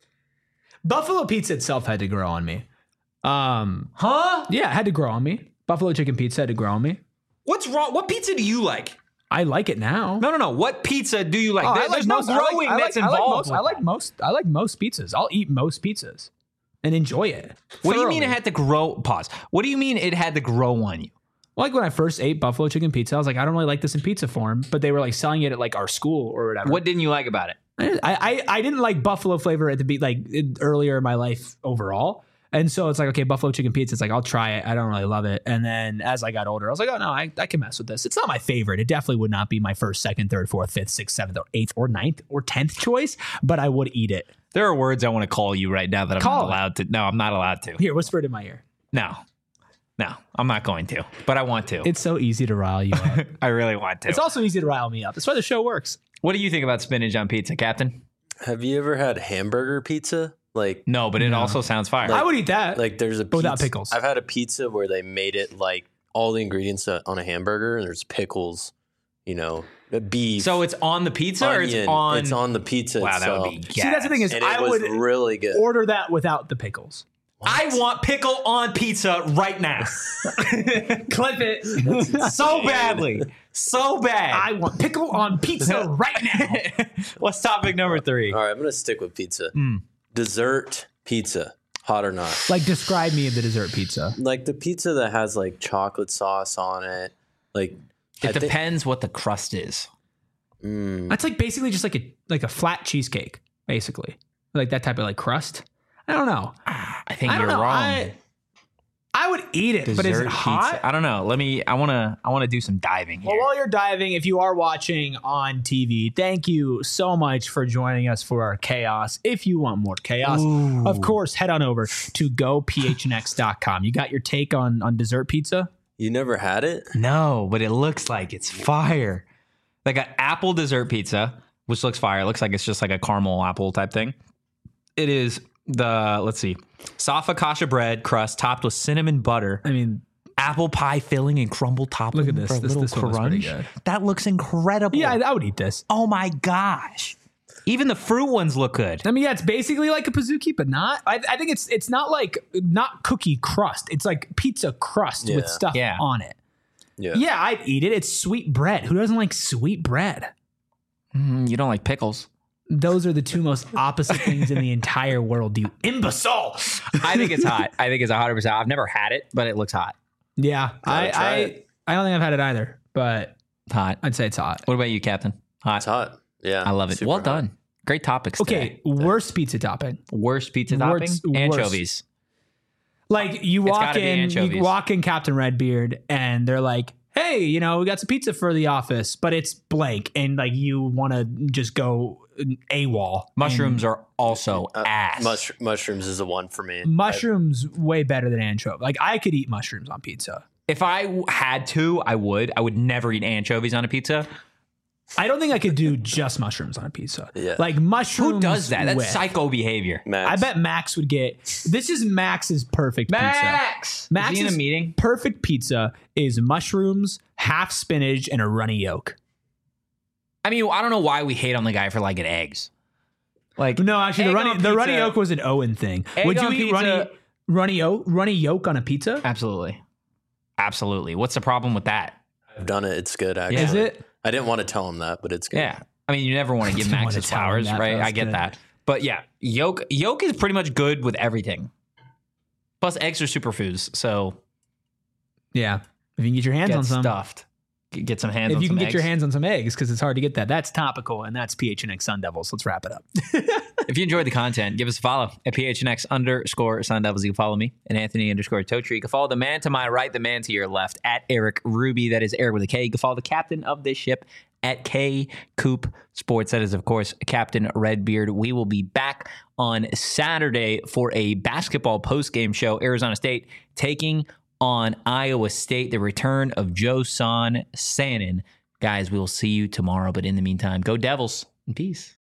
[SPEAKER 2] Buffalo pizza itself had to grow on me. Um,
[SPEAKER 1] Huh?
[SPEAKER 2] yeah, it had to grow on me. Buffalo chicken pizza had to grow on me.
[SPEAKER 1] What's wrong? What pizza do you like?
[SPEAKER 2] I like it now.
[SPEAKER 1] No, no, no. What pizza do you like?
[SPEAKER 2] Oh,
[SPEAKER 1] There-
[SPEAKER 2] I like
[SPEAKER 1] There's no
[SPEAKER 2] most- I like-
[SPEAKER 1] growing
[SPEAKER 2] I like-
[SPEAKER 1] that's
[SPEAKER 2] I like
[SPEAKER 1] involved.
[SPEAKER 2] most-
[SPEAKER 1] with
[SPEAKER 2] I like
[SPEAKER 1] that.
[SPEAKER 2] most. I like most pizzas. I'll eat most pizzas and enjoy it.
[SPEAKER 1] What do you mean it
[SPEAKER 2] thoroughly.
[SPEAKER 1] had to grow? Pause. What do you mean it had to grow on you?
[SPEAKER 2] Like when I first ate buffalo chicken pizza, I was like, I don't really like this in pizza form, but they were like selling it at like our school or whatever.
[SPEAKER 1] What didn't you like about it?
[SPEAKER 2] I I, I didn't like buffalo flavor at the be like it- earlier in my life overall. And so it's like, okay, buffalo chicken pizza. It's like, I'll try it. I don't really love it. And then as I got older, I was like, oh no, I, I can mess with this. It's not my favorite. It definitely would not be my first, second, third, fourth, fifth, sixth, seventh, or eighth, or ninth, or tenth choice, but I would eat it.
[SPEAKER 1] There are words I want to call you right now that I'm
[SPEAKER 2] Call
[SPEAKER 1] not
[SPEAKER 2] it.
[SPEAKER 1] allowed to. No, I'm not allowed to.
[SPEAKER 2] Here, whisper it in my ear.
[SPEAKER 1] No. No, I'm not going to. But I want to.
[SPEAKER 2] It's so easy to rile you up.
[SPEAKER 1] I really want to.
[SPEAKER 2] It's also easy to rile me up. That's why the show works.
[SPEAKER 1] What do you think about spinach on pizza, Captain?
[SPEAKER 3] Have you ever had hamburger pizza? Like,
[SPEAKER 1] No, but it also sounds fire.
[SPEAKER 2] I would eat that.
[SPEAKER 3] like there's a
[SPEAKER 2] But without
[SPEAKER 3] pizza-
[SPEAKER 2] pickles.
[SPEAKER 3] I've had a pizza where they made it like all the ingredients on a hamburger, and there's pickles, you know, beef.
[SPEAKER 1] so it's on the pizza or it's
[SPEAKER 3] onion.
[SPEAKER 1] on?
[SPEAKER 3] It's on the pizza
[SPEAKER 1] Wow, that
[SPEAKER 3] itself.
[SPEAKER 1] would be gas.
[SPEAKER 2] See, that's the thing is,
[SPEAKER 3] and it
[SPEAKER 2] I
[SPEAKER 3] was
[SPEAKER 2] would
[SPEAKER 3] really good.
[SPEAKER 2] order that without the pickles.
[SPEAKER 1] I want pickle on pizza right now.
[SPEAKER 2] Clip it.
[SPEAKER 1] so badly. So bad.
[SPEAKER 2] I want pickle on pizza right now.
[SPEAKER 1] What's topic number three?
[SPEAKER 3] All right, I'm gonna stick with pizza.
[SPEAKER 1] Mm.
[SPEAKER 3] Dessert pizza, hot or not?
[SPEAKER 2] Like, describe me the dessert pizza.
[SPEAKER 3] Like the pizza that has like chocolate sauce on it. Like
[SPEAKER 1] It
[SPEAKER 3] I think-
[SPEAKER 1] depends what the crust is.
[SPEAKER 3] mm,
[SPEAKER 2] That's like basically just like a like a flat cheesecake, basically, like that type of like crust. I don't know.
[SPEAKER 1] I think
[SPEAKER 2] I don't
[SPEAKER 1] you're
[SPEAKER 2] know.
[SPEAKER 1] wrong.
[SPEAKER 2] I, I would eat it, but is it
[SPEAKER 1] Dessert
[SPEAKER 2] hot?
[SPEAKER 1] pizza. I don't know. Let me. I want to. I want to do some diving here.
[SPEAKER 2] Well, while you're diving, if you are watching on T V, thank you so much for joining us for our chaos. If you want more chaos,
[SPEAKER 1] Ooh.
[SPEAKER 2] of course, head on over to go p h n x dot com. You got your take on on dessert pizza?
[SPEAKER 3] you never had it?
[SPEAKER 1] No, but it looks like it's fire. Like an apple dessert pizza, which looks fire. It looks like it's just like a caramel apple type thing. It is the, let's see, soft focaccia bread crust topped with cinnamon butter,
[SPEAKER 2] I mean,
[SPEAKER 1] apple pie filling, and crumble topping.
[SPEAKER 2] Look at this.
[SPEAKER 1] For a
[SPEAKER 2] This-
[SPEAKER 1] little
[SPEAKER 2] this one looks pretty
[SPEAKER 1] crunch.
[SPEAKER 2] good.
[SPEAKER 1] That looks incredible.
[SPEAKER 2] yeah, I, I would eat this.
[SPEAKER 1] Oh my gosh. Even the fruit ones look good.
[SPEAKER 2] I mean, yeah, it's basically like a pizookie, but not. I, I think it's it's not like not cookie crust. It's like pizza crust with
[SPEAKER 3] Yeah.
[SPEAKER 2] stuff
[SPEAKER 1] Yeah.
[SPEAKER 2] on it.
[SPEAKER 3] Yeah.
[SPEAKER 2] Yeah, I'd eat it. It's sweet bread. Who doesn't like sweet bread?
[SPEAKER 1] Mm, you don't like pickles.
[SPEAKER 2] Those are the two most opposite things in the entire world, you imbecile.
[SPEAKER 1] I think it's hot. I think it's one hundred percent. I've never had it, but it looks hot.
[SPEAKER 2] Yeah, I
[SPEAKER 3] Gotta try
[SPEAKER 2] I,
[SPEAKER 3] it.
[SPEAKER 2] I don't think I've had it either, but
[SPEAKER 1] Hot.
[SPEAKER 2] I'd say it's hot.
[SPEAKER 1] What about you, Captain? Hot.
[SPEAKER 3] It's hot. Yeah.
[SPEAKER 1] I love it.
[SPEAKER 3] super
[SPEAKER 1] Well
[SPEAKER 3] hot.
[SPEAKER 1] done. Great topics.
[SPEAKER 2] Okay,
[SPEAKER 1] today.
[SPEAKER 2] worst pizza topping.
[SPEAKER 1] Worst pizza
[SPEAKER 2] Worst-
[SPEAKER 1] topping?
[SPEAKER 2] worst.
[SPEAKER 1] Anchovies.
[SPEAKER 2] Like you
[SPEAKER 1] It's
[SPEAKER 2] walk
[SPEAKER 1] gotta be
[SPEAKER 2] in,
[SPEAKER 1] anchovies.
[SPEAKER 2] you walk in Captain Redbeard, and they're like, "Hey, you know, we got some pizza for the office, but it's blank," and like you want to just go AWOL.
[SPEAKER 1] Mushrooms are also
[SPEAKER 3] Uh,
[SPEAKER 1] ass.
[SPEAKER 3] mush- mushrooms is the one for me.
[SPEAKER 2] And mushrooms way better than anchovy. Like I could eat mushrooms on pizza.
[SPEAKER 1] If I w- had to, I would. I would never eat anchovies on a pizza.
[SPEAKER 2] I don't think I could do just mushrooms on a pizza.
[SPEAKER 3] Yeah.
[SPEAKER 2] Like mushrooms.
[SPEAKER 1] Who does that? That's
[SPEAKER 2] with-
[SPEAKER 1] psycho behavior.
[SPEAKER 3] Max.
[SPEAKER 2] I bet Max would get. This is Max's perfect pizza.
[SPEAKER 1] Max!
[SPEAKER 2] Max
[SPEAKER 1] Is he in a
[SPEAKER 2] is-
[SPEAKER 1] meeting?
[SPEAKER 2] Perfect pizza is mushrooms, half spinach, and a runny yolk.
[SPEAKER 1] I mean, I don't know why we hate on the guy for liking eggs. Like,
[SPEAKER 2] No, actually, the
[SPEAKER 1] egg
[SPEAKER 2] runny
[SPEAKER 1] on
[SPEAKER 2] the runny
[SPEAKER 1] pizza-
[SPEAKER 2] yolk was an Owen thing.
[SPEAKER 1] Egg
[SPEAKER 2] Would you
[SPEAKER 1] on
[SPEAKER 2] eat
[SPEAKER 1] pizza-
[SPEAKER 2] runny runny yolk runny yolk on a pizza?
[SPEAKER 1] Absolutely. Absolutely. What's the problem with that?
[SPEAKER 3] I've done it. It's good, actually.
[SPEAKER 2] Is it?
[SPEAKER 3] I didn't want to tell him that, but it's good.
[SPEAKER 1] Yeah. I mean, you never want to give
[SPEAKER 2] didn't
[SPEAKER 1] Max
[SPEAKER 2] wanna
[SPEAKER 1] his
[SPEAKER 2] tell him
[SPEAKER 1] flowers,
[SPEAKER 2] that,
[SPEAKER 1] right?
[SPEAKER 2] that was
[SPEAKER 1] I get
[SPEAKER 2] good.
[SPEAKER 1] that. But yeah, yolk yolk is pretty much good with everything. Plus, eggs are superfoods, so
[SPEAKER 2] Yeah. If you can get your hands
[SPEAKER 1] get
[SPEAKER 2] on some.
[SPEAKER 1] stuffed. Get get some hands
[SPEAKER 2] If
[SPEAKER 1] on
[SPEAKER 2] you
[SPEAKER 1] some
[SPEAKER 2] can get
[SPEAKER 1] eggs.
[SPEAKER 2] your hands on some eggs, because it's hard to get that. That's topical, and that's P H N X Sun Devils. Let's wrap it up.
[SPEAKER 1] If you enjoyed the content, give us a follow at P H N X underscore Sun Devils. You can follow me at Anthony underscore Totri. You can follow the man to my right, the man to your left at Eric Ruby. That is Eric with a K. You can follow the captain of this ship at K Coop Sports. That is, of course, Captain Redbeard. We will be back on Saturday for a basketball post-game show. Arizona State taking on Iowa State. The return of Joe Son Sannon. Guys, we will see you tomorrow. But in the meantime, go Devils and peace.